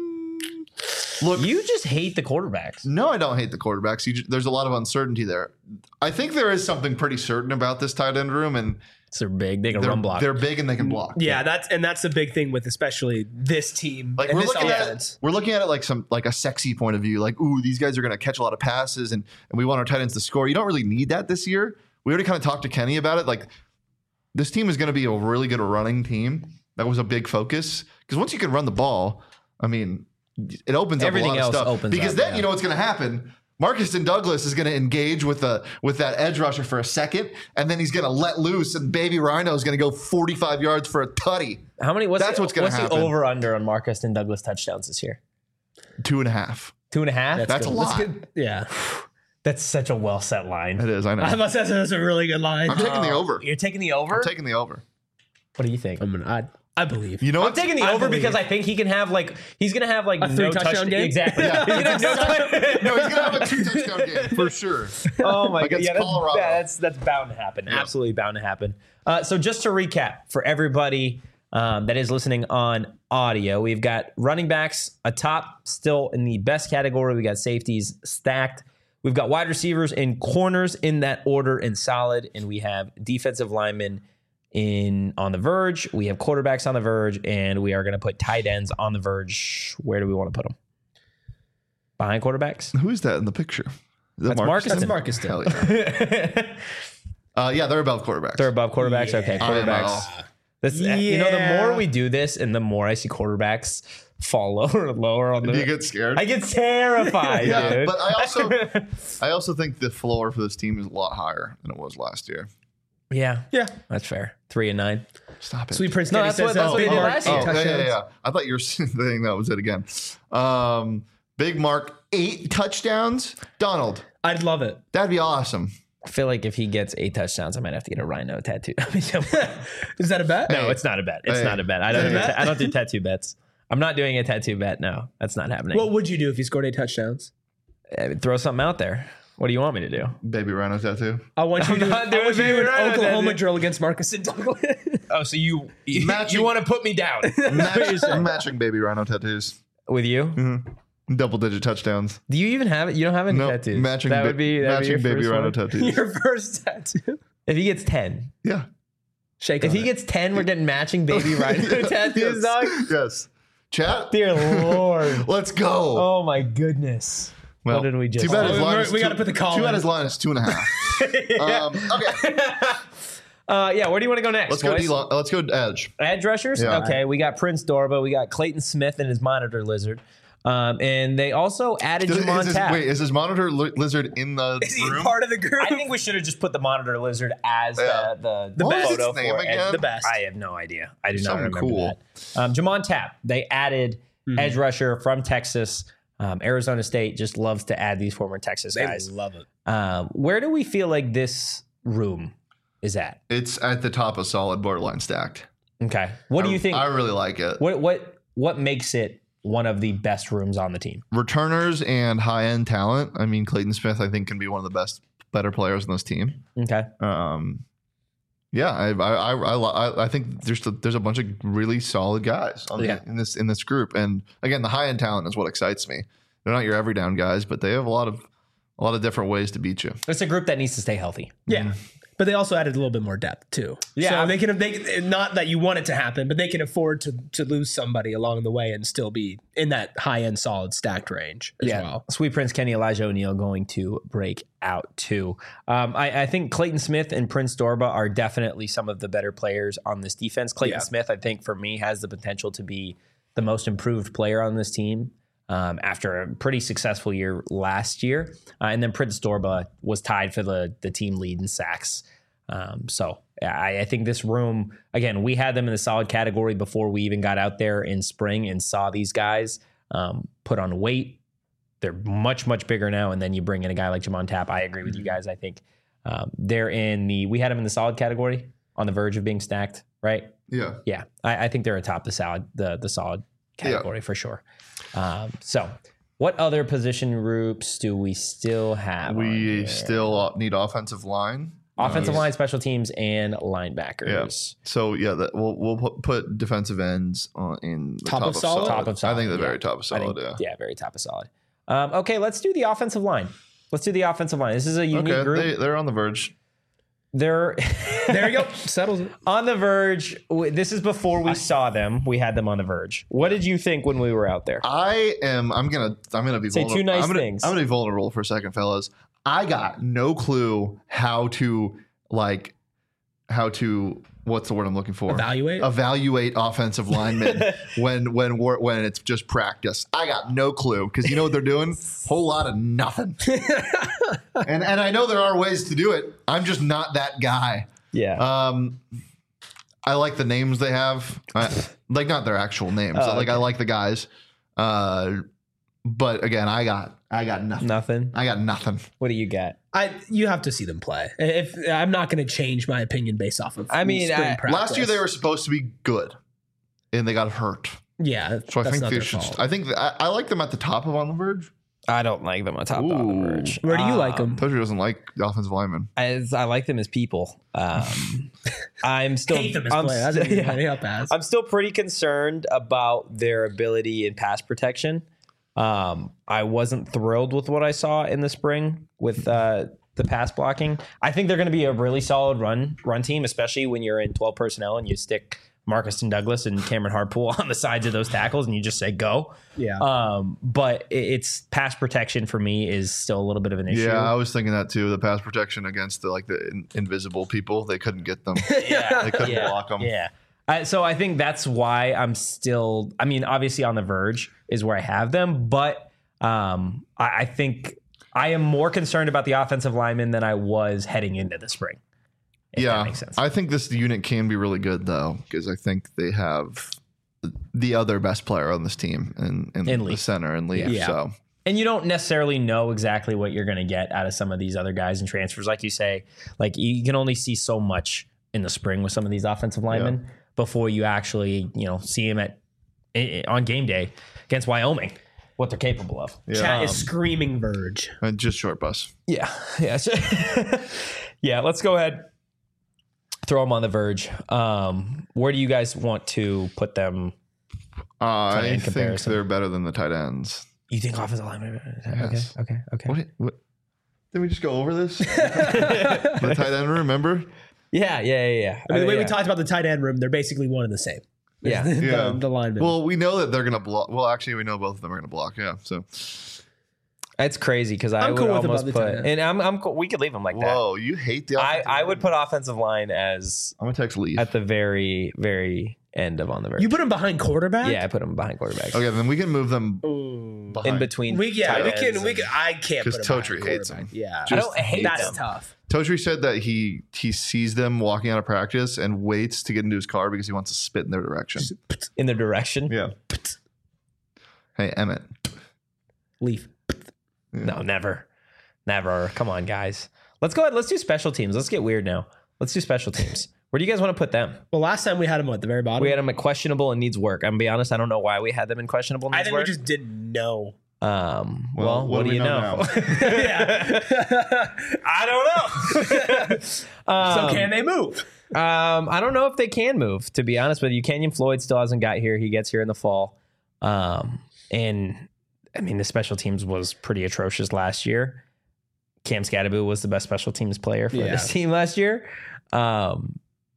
Look, You just hate the quarterbacks. no, I don't hate the quarterbacks. You ju- there's a lot of uncertainty there. I think there is something pretty certain about this tight end room, and So they're big. They can they're, run block. they're big and they can block. Yeah, that's and that's the big thing with especially this team Like and we're this looking at offense. it, we're looking at it like some like a sexy point of view. Like, ooh, these guys are going to catch a lot of passes, and and we want our tight ends to score. You don't really need that this year. We already kind of talked to Kenny about it. Like, this team is going to be a really good running team. That was a big focus because once you can run the ball, I mean, it opens Everything up a lot else of stuff. opens because up, then yeah. you know what's going to happen. Marcus and Douglas is going to engage with the with that edge rusher for a second, and then he's going to let loose, and Baby Rhino is going to go forty-five yards for a tutty. How many? What's That's the, what's gonna What's happen. the over under on Marcus and Douglas touchdowns this year? Two and a half. Two and a half. That's a lot. Yeah, That's such a well set line. It is. I know. I must say that's a really good line. I'm taking the over. You're taking the over. I'm taking the over. what do you think? I'm gonna. I, I believe. You know, I'm what's- taking the I over believe because it. I think he can have like he's gonna have like A no three touchdown touch- game? Exactly. Yeah. He's gonna have no touch- no, he's gonna have a two touchdown game for sure. Oh my god, Against yeah, that's, Colorado. that's that's bound to happen. Absolutely bound to happen. Uh, so just to recap for everybody um, that is listening on audio, we've got running backs atop, still in the best category. We got safeties stacked. We've got wide receivers and corners in that order and solid, and we have defensive linemen in on the verge. We have quarterbacks on the verge, and we are going to put tight ends on the verge. Where do we want to put them? Behind quarterbacks? Who is that in the picture? Is that That's Marcus. That's Marcus. Hell yeah. uh, yeah, they're above quarterbacks. They're above quarterbacks. Okay, I know. quarterbacks. This, You know, the Yeah. more we do this, and the more I see quarterbacks fall lower and lower on the. Do you get scared? I get terrified, yeah, dude. but I also, I also think the floor for this team is a lot higher than it was last year. yeah, Yeah. that's fair. Three and nine. Stop it. Sweet Prince No, Kenny that's says what- that's uh, what he Big did Mark, last eight year. Oh, yeah, yeah, touchdowns. yeah. I thought you were saying that was it again. Um, Big Mark, eight touchdowns. Donald, I'd love it. that'd be awesome. I feel like if he gets eight touchdowns, I might have to get a rhino tattoo. Is that a bet? No, it's not a bet. It's Hey. not a bet. I don't. Is it Do a ta- bet? I don't do tattoo bets. I'm not doing a tattoo bet. No, that's not happening. What would you do if he scored eight touchdowns? Uh, throw something out there. What do you want me to do? Baby Rhino tattoo. I want you I'm to do, not I doing want you to do Baby an Rhino Oklahoma tattoo. drill against Marcus and Douglas. Oh, so you you, Matching- you want to put me down Match, matching Baby Rhino tattoos. with you? Double digit touchdowns. Do you even have it? You don't have any No, tattoos. matching, that ba- would be that'd matching be your Baby first Rhino one. tattoos. Your first tattoo. If he gets ten, Yeah. Shake if on he it. gets ten, we're getting matching Baby Rhino tattoos, yes. dog. Yes. Chat. Dear Lord. Let's go. Oh my goodness. Well, what did we just? Too bad Oh, his line we- is we two- gotta put the call Too bad in. his line is two and a half. um, okay. Uh, yeah. Where do you want to go next? Let's go. boys? D- let's go edge. Edge rushers. Yeah. Okay, we got Prince Dorba. We got Clayton Smith and his monitor lizard. Um, and they also added Is, Jamon is, Tapp. wait, is his monitor li- lizard in the Is he room? part of the group? I think we should have just put the monitor lizard as Yeah. the the, The the best. photo What's its name for it. again? The best. I have no idea. I do not Something remember cool. that. Um, Jamon Tapp. They added edge rusher from Texas. Um, Arizona State just loves to add these former Texas They guys. love it. Um, where do we feel like this room is at? It's at the top of solid, borderline stacked. Okay. What do I- you think? I really like it. what what what makes it one of the best rooms on the team? Returners and high end talent. I mean, Clayton Smith, I think, can be one of the best, better players in this team. Okay. Um, yeah, I I I, I, li- I think there's a, there's a bunch of really solid guys on the, Yeah. in this in this group, and again, the high end talent is what excites me. They're not your every down guys, but they have a lot of a lot of different ways to beat you. It's a group that needs to stay healthy. Yeah. But they also added a little bit more depth too. Yeah. So they can they not that you want it to happen, but they can afford to to lose somebody along the way and still be in that high end solid stacked range as well. Sweet Prince Kenny, Elijah O'Neal going to break out too. Um, I, I think Clayton Smith and Prince Dorba are definitely some of the better players on this defense. Clayton Yeah. Smith, I think, for me, has the potential to be the most improved player on this team. Um, after a pretty successful year last year. Uh, and then Prince Dorba was tied for the, the team lead in sacks. Um, so I, I think this room, again, we had them in the solid category before we even got out there in spring and saw these guys um, put on weight. They're much, much bigger now. And then you bring in a guy like Jamon Tapp. I agree with you guys. I think um, they're in the, we had them in the solid category on the verge of being stacked, right? Yeah, Yeah, I, I think they're atop the solid, the the solid category for sure. Um, so, what other position groups do we still have? on we here? still need offensive line. offensive Uh, line, special teams, and linebackers. So yeah, that we'll we'll put, put defensive ends on in the Top top, of solid? Top of solid, I think the yeah. very top of I solid. think, yeah. yeah, very top of solid. Um, okay, let's do the offensive line. Let's do the offensive line. This is a unique Okay, group. they, they're on the verge. They're There you go. Settles it. on the verge. W- This is before we saw them. We had them on the verge. What did you think when we were out there? I am. I'm gonna. I'm gonna be Say two vulnerable. nice I'm gonna, things. I'm gonna be vulnerable for a second, fellas. I got no clue how to like how to. What's the word I'm looking for? Evaluate? Evaluate offensive linemen when when we're, when it's just practice. I got no clue because you know what they're doing? Whole lot of nothing. and and I know there are ways to do it. I'm just not that guy. Yeah. Um, I like the names they have, I, like not their actual names. Oh, like I okay. like the guys, uh, but again, I got I got nothing. Nothing. I got nothing. What do you got? I you have to see them play. If I'm not going to change my opinion based off of I mean, spring I- practice. Last year they were supposed to be good. and they got hurt. Yeah, So I that's think not they their should. fault. I think that, I, I like them at the top of On the Verge. I don't like them on top of Ooh. the verge. Where do you like them? Toshi doesn't like the offensive lineman. As I like them as people. Um, I'm still Hate them as I'm, players. That's st- what you yeah. hang up as. I'm still pretty concerned about their ability in pass protection. Um, I wasn't thrilled with what I saw in the spring with uh, the pass blocking. I think they're going to be a really solid run run team, especially when you're in twelve personnel and you stick Marcus and Douglas and Cameron Hartpool on the sides of those tackles and you just say go. Yeah. Um, but it- it's pass protection for me is still a little bit of an issue. Yeah, I was thinking that too. The pass protection against the like the in, invisible people, they couldn't get them. yeah. They couldn't yeah. block them. Yeah. I, so I think that's why I'm still, I mean, obviously On the Verge is where I have them, but um, I, I think I am more concerned about the offensive linemen than I was heading into the spring. If yeah, that makes sense. I think this unit can be really good though, because I think they have the other best player on this team in, in, In the Lee. center and Lee. Yeah. So And you don't necessarily know exactly what you're going to get out of some of these other guys in transfers. Like you say, like you can only see so much in the spring with some of these offensive linemen before you actually, you know, see them at i- on game day against Wyoming, what they're capable of. yeah, Chat Um, is screaming Verge. and just short bus. Yeah. Yeah. So- yeah. Let's go ahead. Throw them on the Verge. Um, where do you guys want to put them? Uh, I in think comparison. they're better than the tight ends. You think offensive linemen? Yes. Okay. Okay. Okay. What? What? Did we just go over this? The tight end, remember? Yeah. Yeah. Yeah. Yeah. I mean, the way yeah. we talked about the tight end room, they're basically one and the same. Yeah. the, Yeah. the linemen. Well, we know that they're gonna block. Well, actually, we know both of them are gonna block. Yeah. So, It's crazy because I I'm would cool with almost about the put, tight end. and I'm, I'm cool. We could leave them like that. whoa, you hate the. I, offensive I line? would put offensive line as I'm gonna text Leaf. at the very, very end of On the Verge. you put him behind quarterback? yeah, I put them behind quarterback. Okay, then we can move them Ooh. behind. In between. We yeah, tight we ends can we and- can I can't put him 'Cause behind Totri hates quarterback. him. Yeah. I don't hate That's them. tough. Totri said that he he sees them walking out of practice and waits to get into his car because he wants to spit in their direction. in the direction. Yeah. Hey Emmett. Leaf. No, never. Never. Come on, guys. Let's go ahead. Let's do special teams. Let's get weird now. Let's do special teams. Where do you guys want to put them? Well, last time we had him at the very bottom. We had them at questionable and needs work. I'm gonna be honest. I don't know why we had them in questionable and I needs think we work. just didn't know. um, Well, well, what what, do do we you know know? yeah. I don't know. um, So can they move? Um, I don't know if they can move, to be honest with you. Kenyon Floyd still hasn't got here. He gets here in the fall. Um, and I mean, the special teams was pretty atrocious last year. Cam Scadaboo was the best special teams player for Yeah. this team last year. Um,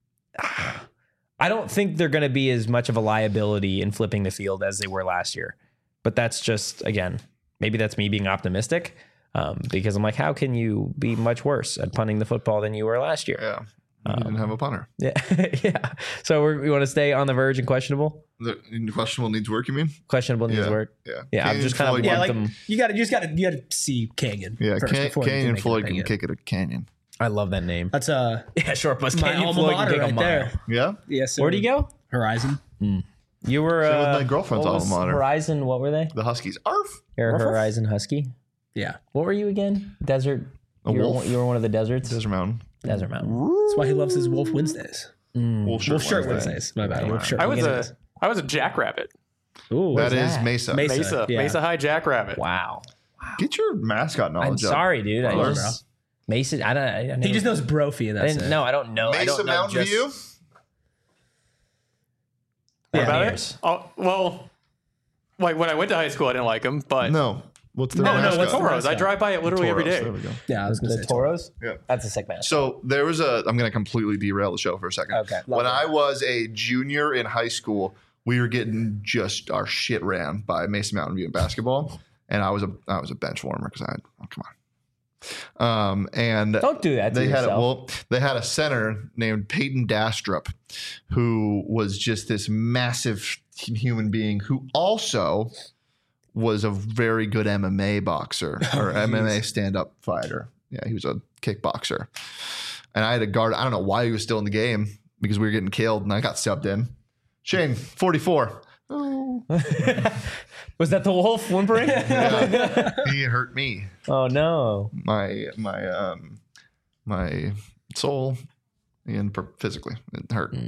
I don't think they're going to be as much of a liability in flipping the field as they were last year. But that's just, again, maybe that's me being optimistic um, because I'm like, how can you be much worse at punting the football than you were last year? Yeah. He didn't have a punter. Yeah, yeah. So we're, we want to stay on the verge and questionable. The questionable needs work, you mean? Questionable needs Yeah. work. Yeah. Yeah, I'm Canyon just kind of Floyd- Yeah, want like them. you got to you just got to you got to see Canyon. Yeah, first Can- before you Canyon make an Floyd can opinion. kick it a canyon. I love that name. That's uh Yeah, short bus. my Canyon alma Floyd can mater kick a right mile. there. Yeah? Yes. Where'd he go? Horizon. You were Same with uh, my girlfriend's what was alma mater. Horizon. What were they? The Huskies. Arf! You're a Ruff, ruff. Horizon Husky. Yeah. What were you again? Desert. A you, were, wolf. one- you were one of the deserts. Desert Mountain. Desert Mountain. That's why he loves his Wolf Wednesdays. Wolf shirt, Wolf shirt Wednesday. Wednesdays. My bad. Wolf shirt. I was Wednesdays. a I was a jackrabbit. Ooh, That is that? Mesa. Mesa. Mesa. yeah. Mesa High jackrabbit. Wow. Get your mascot I'm knowledge up. sorry, dude. I Bro. just Mason. I don't. I, I never, He just knows Brophy, and I that's didn't. it. No, I don't know. I Mesa don't know Mountain just, View? What Yeah. about Years. it? Oh well, like when I went to high school, I didn't like him, but No. What's their No, no, mascot? what's the Toros. I mascot? drive by it literally every Toros. day. There we go. Yeah, I was gonna The say Toros. Yeah. That's a sick man. So there was a. I'm going to completely derail the show for a second. Okay. When Love I was a junior in high school, we were getting just our shit ran by Mason Mountain View in basketball, and I was a I was a bench warmer because I had oh, come on. Um and Don't do that to they had a, yourself. well they had a center named Peyton Dastrup, who was just this massive human being who also was a very good M M A boxer or M M A stand-up fighter. Yeah, he was a kickboxer. And I had a guard. I don't know why he was still in the game because we were getting killed and I got subbed in. Shane, forty-four. Oh. Was that the wolf whimpering? Yeah. He hurt me. Oh no. My my um my soul and per- physically it hurt.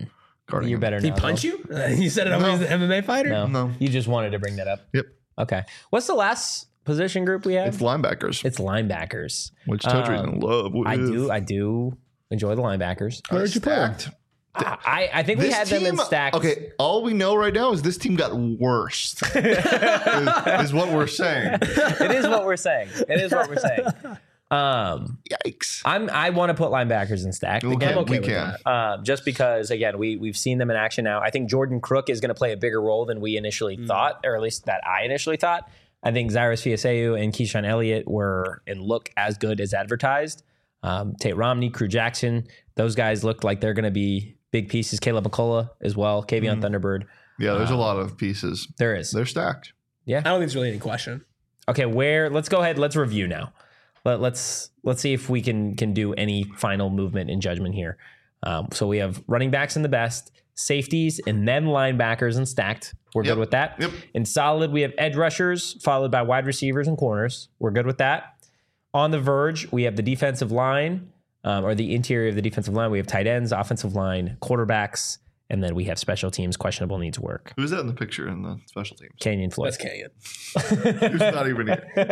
guarding You're him. better Did now. he punch though. you? Uh, you said it No. was an M M A fighter? No. No. You just wanted to bring that up. Yep. Okay. What's the last position group we have? It's linebackers, It's linebackers. which Totry's Um, in love with. I do. I do enjoy the linebackers. Where did you put him? Stacked. I, I think we had them in stacks. Okay, all we know right now is this team got worse. is, is what we're saying. It is what we're saying. It is what we're saying. Um, Yikes. I'm. I want to put linebackers in stack Okay, again, okay we with can. um, just because again we we've seen them in action now. I think Jordan Crook is going to play a bigger role than we initially thought, or at least that I initially thought. I think Cyrus Fiaseu and Keyshawn Elliott were and look as good as advertised. Um, Tate Romney, Crew Jackson, those guys look like they're going to be big pieces. Caleb McCullough as well. Kavion Thunderbird. Yeah, there's a lot of pieces. There is. They're stacked. I don't think there's really any question. Okay, where? Let's go ahead. Let's review now. Let, let's let's see if we can can do any final movement in judgment here. Um, so we have running backs in the best, safeties, and then linebackers and stacked. We're Yep. good with that. Yep. In solid, we have edge rushers followed by wide receivers and corners. We're good with that. On the verge, we have the defensive line um, or the interior of the defensive line. We have tight ends, offensive line, quarterbacks, and then we have special teams, questionable needs work. Who's that in the picture in the special teams? Canyon Floyd. That's Canyon. Who's not even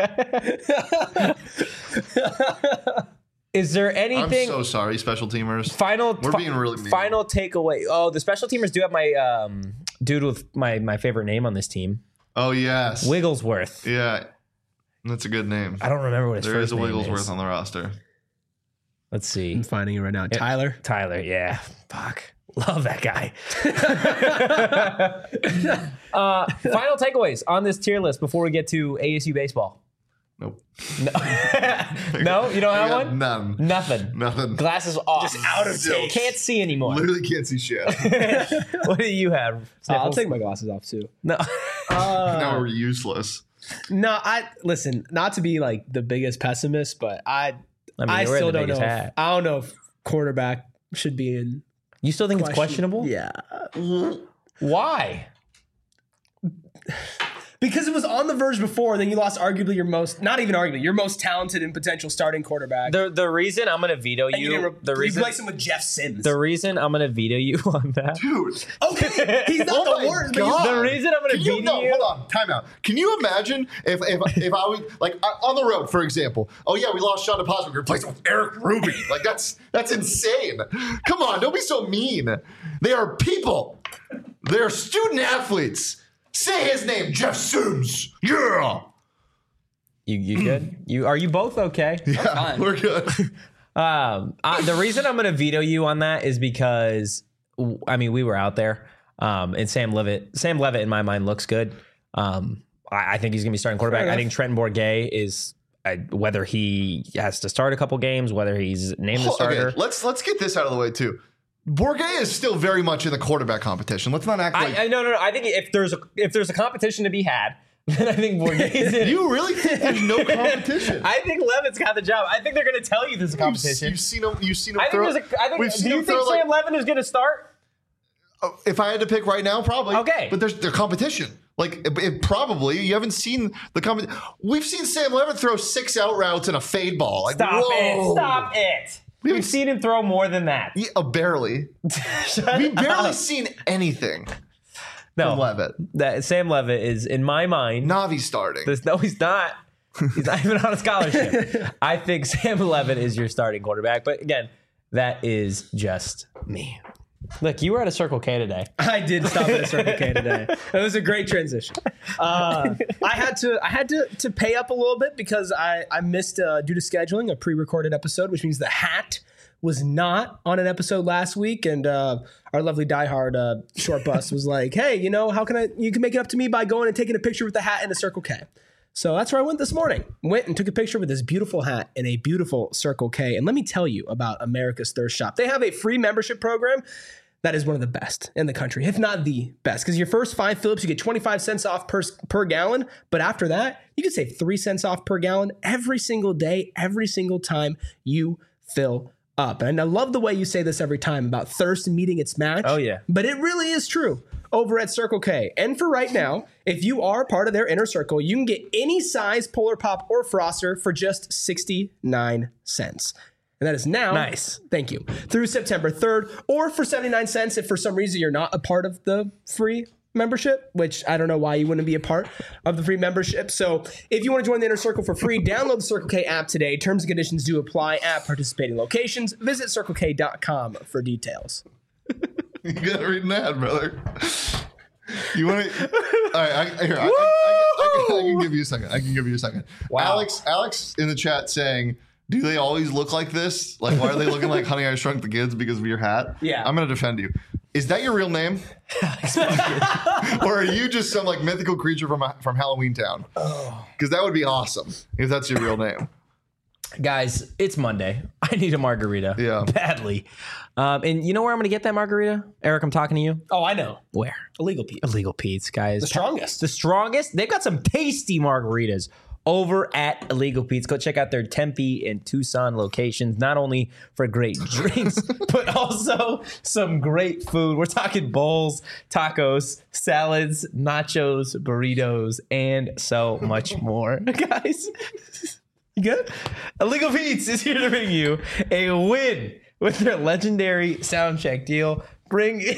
here? Is there I'm anything? so sorry, special teamers. Final, We're fi- being really mean. final takeaway. Oh, the special teamers do have my um, dude with my my favorite name on this team, Oh, yes. Wigglesworth. Yeah. That's a good name. I don't remember what his There first is a name Wigglesworth is. on the roster. Let's see, I'm finding it right now. Tyler. Tyler. Yeah, fuck, love that guy. uh, final takeaways on this tier list before we get to A S U baseball. Nope. No, no, you don't I have got one. None. Nothing. Nothing. Glasses off. Just out of date. Can't see anymore. Literally can't see shit. What do you have? Uh, I'll Sniffles? take my glasses off too. No. now we're useless. No, I listen. Not to be like the biggest pessimist, but I, I mean, I you're wearing still the don't know. biggest If, hat. I don't know if quarterback should be in. You still think it's question. questionable? Yeah, Why? because it was on the verge before, and then you lost arguably your most, not even arguably, your most talented and potential starting quarterback. The the reason I'm gonna veto and you, you, didn't re- the you reason replaced him with Jeff Sims. the reason I'm gonna veto you on that. Dude. okay, he's not Oh the my worst. but you- God. The reason I'm gonna Can you, veto no, you. hold on, time out. Can you imagine if if, if I would, like, uh, on the road, for example, oh yeah, we lost Sean DePosma, we replaced him with Eric Ruby. Like, that's that's insane. Come on, don't be so mean. They are people. They are student athletes. Say his name, Jeff Sims. Yeah. You you good? You are you both okay? Yeah, fine. we're good. Um, uh, the reason I'm gonna veto you on that is because w- I mean we were out there, um, and Sam Levitt, Sam Levitt in my mind looks good. Um, I, I think he's gonna be starting quarterback. I think Trenton Bourguet is. Uh, whether he has to start a couple games, whether he's named the starter. Okay, let's let's get this out of the way too. Bourguet is still very much in the quarterback competition. Let's not act like I, I no no no. I think if there's a if there's a competition to be had, then I think Bourguet's in. it. you really think there's no competition. I think Levitt's got the job. I think they're going to tell you there's a competition. You've seen him. You've seen him I think throw. there's a. I think. we've Do seen you him think throw, like- Sam Levin is going to start? Oh, if I had to pick right now, probably. Okay. But there's the competition. Like it, it probably you haven't seen the compet. We've seen Sam Levitt throw six out routes and a fade ball. Like, Stop whoa. it! Stop it! We We've haven't seen him throw more than that. Yeah, uh, barely. Shut We've barely up. seen anything no, from Levitt. That Sam Levitt is in my mind. Navi starting. This, no, he's not. He's not even on a scholarship. I think Sam Levitt is your starting quarterback. But again, that is just me. Look, you were at a Circle K today. I did stop at a Circle K today. It was a great transition. Uh, I had to I had to to pay up a little bit because I I missed uh, due to scheduling a pre-recorded episode, which means the hat was not on an episode last week, and uh, our lovely diehard uh, short bus was like, "Hey, you know, how can I? You can make it up to me by going and taking a picture with the hat in a Circle K." So that's where I went this morning. Went and took a picture with this beautiful hat in a beautiful Circle K. And let me tell you about America's Thirst Shop. They have a free membership program that is one of the best in the country, if not the best. Because your first five Phillips, you get twenty-five cents off per, per gallon. But after that, you can save three cents off per gallon every single day, every single time you fill up. And I love the way you say this every time about thirst meeting its match. Oh, yeah. But it really is true over at Circle K. And for right now, if you are part of their inner circle, you can get any size Polar Pop or Froster for just sixty-nine cents. And that is now. Nice. Thank you. Through September third, or for seventy-nine cents if for some reason you're not a part of the free membership, which I don't know why you wouldn't be a part of the free membership. So if you want to join the Inner Circle for free, download the Circle K app today. Terms and conditions do apply at participating locations. Visit circle k dot com for details. You gotta read an ad, brother. You want to? All right, I, here, I, I, I, I, can, I can give you a second. I can give you a second. Wow. Alex, Alex in the chat saying, "Do they always look like this? Like, why are they looking like Honey I Shrunk the Kids because of your hat?" Yeah. I'm gonna defend you. Is that your real name? Or are you just some like mythical creature from from Halloween Town? Because that would be awesome if that's your real name. Guys, it's Monday. I need a margarita. Yeah. Badly. Um, and you know where I'm going to get that margarita? Eric, I'm talking to you. Oh, I know. Where? Illegal Pete. Illegal Pete's, guys. The strongest. The strongest. They've got some tasty margaritas over at Illegal Pete's. Go check out their Tempe and Tucson locations, not only for great drinks, but also some great food. We're talking bowls, tacos, salads, nachos, burritos, and so much more. Guys, you good? Illegal Pete's is here to bring you a win with their legendary sound check deal. Bring in,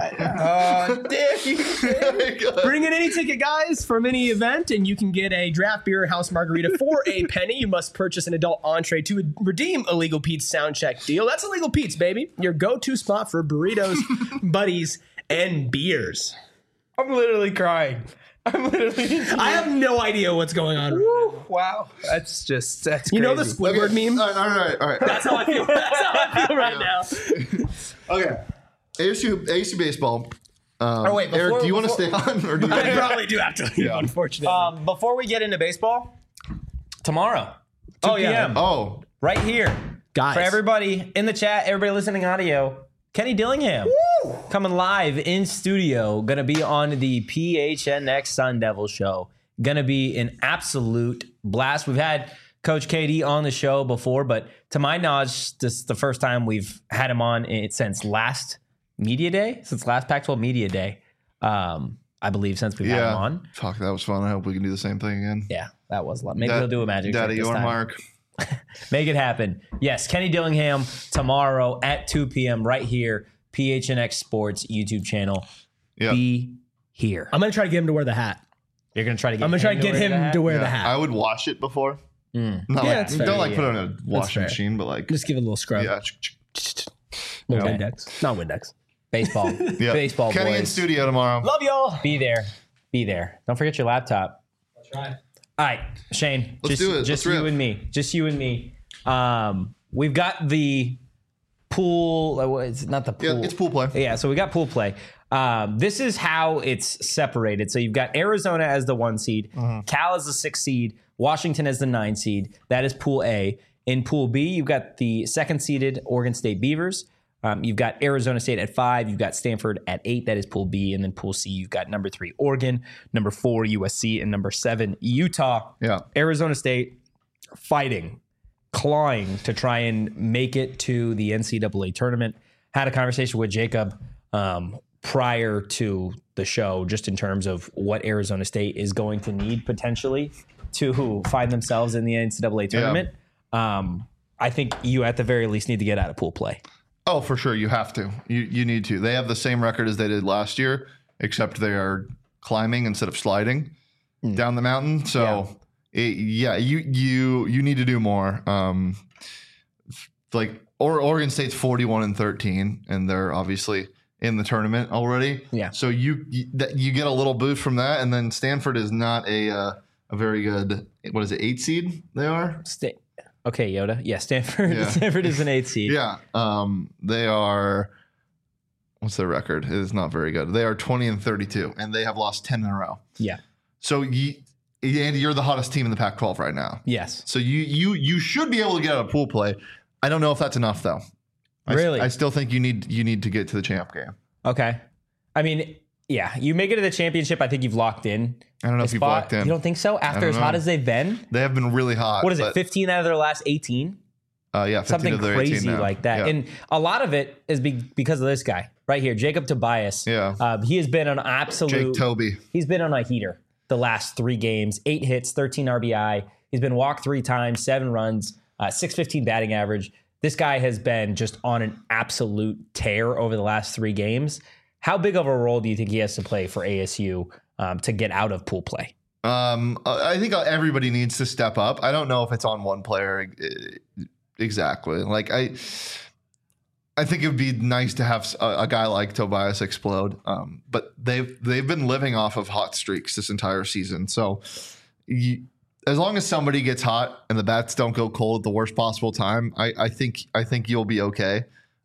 oh, damn you. Bring in any ticket, guys, from any event, and you can get a draft beer house margarita for a penny. You must purchase an adult entree to redeem Illegal Pete's sound check deal. That's Illegal Pete's, baby. Your go-to spot for burritos, buddies, and beers. I'm literally crying. I'm literally. I have no idea what's going on. Woo, wow, that's just that's. You crazy. know the Squidward meme? All right, all right, all right. That's how I feel. That's how I feel right now. Okay. A S U, A S U baseball. Um, Oh, wait, before- Eric, do you want to before- stay on? Or do you I probably do have to leave, Yeah. unfortunately. Um, before we get into baseball, tomorrow, two Oh, yeah. p.m. Oh, right here, Guys. for everybody in the chat, everybody listening audio. Kenny Dillingham coming live in studio, gonna be on the P H N X Sun Devil show. Gonna be an absolute blast. We've had Coach K D on the show before, but to my knowledge, this is the first time we've had him on it since last media day, since last Pac twelve media day. Um, I believe since we've had him yeah. on. Fuck, that was fun. I hope we can do the same thing again. Yeah, that was a lot. Maybe Da- we'll do a magic trick Daddy this or time. Mark. Make it happen. Yes, Kenny Dillingham tomorrow at two p.m. right here, P H N X Sports YouTube channel. Yeah. Be here. I'm going to try to get him to wear the hat. You're going to try to get I'm going to try to him get wear him the hat? to wear Yeah, the hat. I would wash it before. Mm. Not Yeah, like, that's fair. don't like Yeah, put it in a washing fair. machine, but like, Just give it a little scrub. yeah. Little Okay. Windex. Not Windex. Baseball. yeah. Baseball Kenny boys. in studio tomorrow. Love y'all. Be there. Be there. Don't forget your laptop. That's right. All right, Shane. Let's just do it. just Let's you rip. and me. Just you and me. Um, we've got the pool. uh, what- It's not the pool. Yeah, it's pool play. Yeah, so we got pool play. Um, this is how it's separated. So you've got Arizona as the one seed, Uh-huh. Cal as the six seed, Washington as the nine seed. That is Pool A. In Pool B, you've got the second seeded Oregon State Beavers. Um, you've got Arizona State at five. You've got Stanford at eight. That is Pool B. And then Pool C, you've got number three, Oregon, number four, U S C, and number seven, Utah. Yeah. Arizona State fighting, clawing to try and make it to the N C double A tournament. Had a conversation with Jacob um, prior to the show, just in terms of what Arizona State is going to need potentially to find themselves in the N C double A tournament. Um, I think you at the very least need to get out of pool play. Oh, for sure. You have to. You you need to. They have the same record as they did last year, except they are climbing instead of sliding down the mountain. So, yeah, it, yeah you you you need to do more. Um, like or Oregon State's forty-one and thirteen, and they're obviously in the tournament already. Yeah. So you you, that, you get a little boost from that, and then Stanford is not a uh, a very good. What is it? Eight seed? They are. Sta- okay, Yoda. Yeah, Stanford. Yeah. Stanford is an eight seed. Yeah. Um, they are. What's their record? It is not very good. They are twenty and thirty-two, and they have lost ten in a row. Yeah. So you, Andy, you're the hottest team in the Pac twelve right now. Yes. So you you you should be able to get out of pool play. I don't know if that's enough though. I, Really? I still think you need you need to get to the champ game. Okay. I mean, yeah, you make it to the championship. I think you've locked in. I don't know a if you've spot. locked in. You don't think so? After don't as hot know. as they've been, They have been really hot. what is it? but, fifteen out of their last eighteen. Uh, yeah, fifteen Something of their eighteen crazy now. like that. Yeah. And a lot of it is be- because of this guy right here, Jacob Tobias. Yeah. Um, he has been an absolute. Jake Toby. He's been on a heater the last three games. Eight hits, thirteen R B I. He's been walked three times, seven runs, uh, six fifteen batting average. this guy has been just on an absolute tear over the last three games. How big of a role do you think he has to play for A S U um, to get out of pool play? Um, I think everybody needs to step up. I don't know if it's on one player exactly. Like I, I think it would be nice to have a, a guy like Tobias explode. Um, but they've they've been living off of hot streaks this entire season. So you, as long as somebody gets hot and the bats don't go cold at the worst possible time, I, I think I think you'll be okay.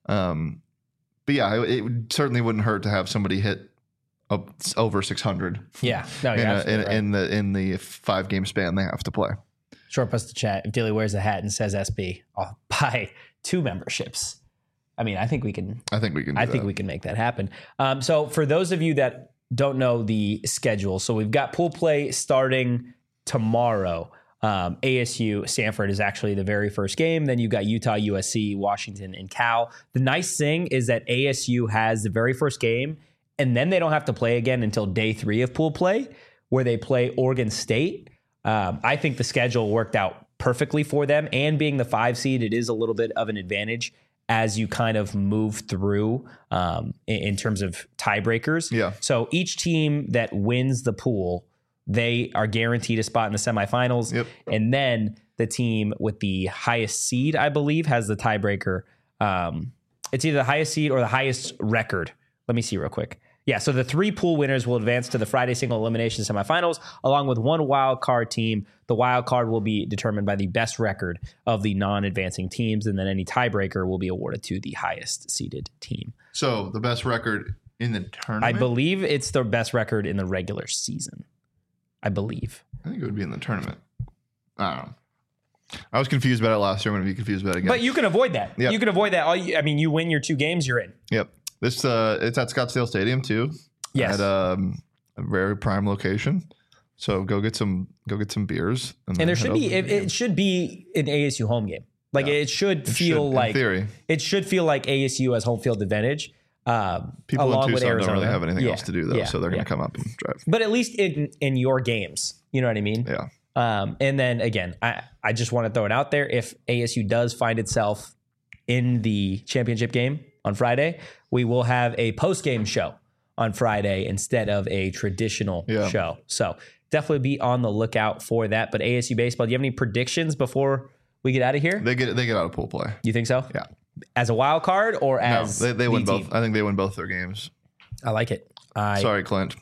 Um, but yeah, it, it certainly wouldn't hurt to have somebody hit up over six hundred. Yeah, no, in, you're a, absolutely in, right. in the in the five game span they have to play. Short post to chat. If Dilly wears a hat and says S B, I'll buy two memberships. I mean, I think we can. I think we can. Do I that. think we can make that happen. Um, so for those of you that don't know the schedule, so we've got pool play starting tomorrow. Um, A S U Stanford is actually the very first game. Then you've got Utah, U S C, Washington, and Cal. The nice thing is that A S U has the very first game, and then they don't have to play again until day three of pool play, where they play Oregon State. Um, I think the schedule worked out perfectly for them, and being the five seed, it is a little bit of an advantage as you kind of move through um, in, in terms of tiebreakers. Yeah. So each team that wins the pool, they are guaranteed a spot in the semifinals. Yep. And then the team with the highest seed, I believe, has the tiebreaker. Um, it's either the highest seed or the highest record. Let me see real quick. Yeah, so the three pool winners will advance to the Friday single elimination semifinals, along with one wild card team. The wild card will be determined by the best record of the non-advancing teams, and then any tiebreaker will be awarded to the highest seeded team. So the best record in the tournament. I believe it's the best record in the regular season. I believe. I think it would be in the tournament. I don't know. I was confused about it last year. I'm going to be confused about it again. But you can avoid that. Yep. You can avoid that. All you, I mean, you win your two games, you're in. Yep. This uh, it's at Scottsdale Stadium too. Yes. At um, a very prime location. So go get some go get some beers. And then there head should over be to it, the game. it should be an A S U home game. Like Yeah. it should It feel should, in like theory. it should feel like A S U has home field advantage. Um, People along in with Tucson Arizona. don't really have anything Yeah, else to do though, yeah, so they're going yeah. to come up and drive. But at least in in your games, you know what I mean? Yeah. Um, and then again, I, I just want to throw it out there. If A S U does find itself in the championship game on Friday, we will have a post-game show on Friday instead of a traditional Yeah. show. So definitely be on the lookout for that. But A S U baseball, do you have any predictions before we get out of here? They get they get out of pool play. You think so? Yeah. As a wild card or No, as they, they the win team? both. I think they win both their games. I like it. I, Sorry, Clint.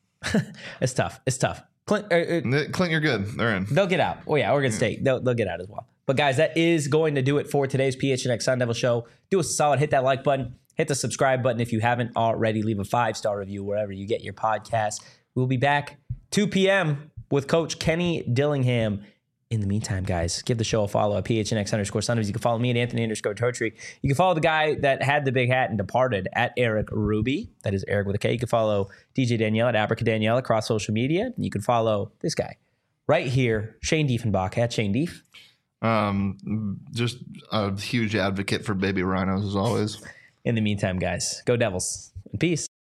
It's tough. It's tough. Clint, uh, uh, Clint, you're good. They're in. They'll get out. Oh, yeah, Oregon State. They'll, they'll get out as well. But, guys, that is going to do it for today's P H N X Sun Devil Show. Do us a solid. Hit that like button. Hit the subscribe button if you haven't already. Leave a five-star review wherever you get your podcast. We'll be back two p.m. with Coach Kenny Dillingham. In the meantime, guys, give the show a follow at P H N X underscore Sundays. You can follow me at Anthony underscore Totri. You can follow the guy that had the big hat and departed at Eric Ruby. That is Eric with a K. You can follow D J Danielle at Abrica Danielle across social media. And you can follow this guy right here, Shane Diefenbach at Shane Dief. Um, just a huge advocate for baby rhinos as always. In the meantime, guys, go Devils and peace.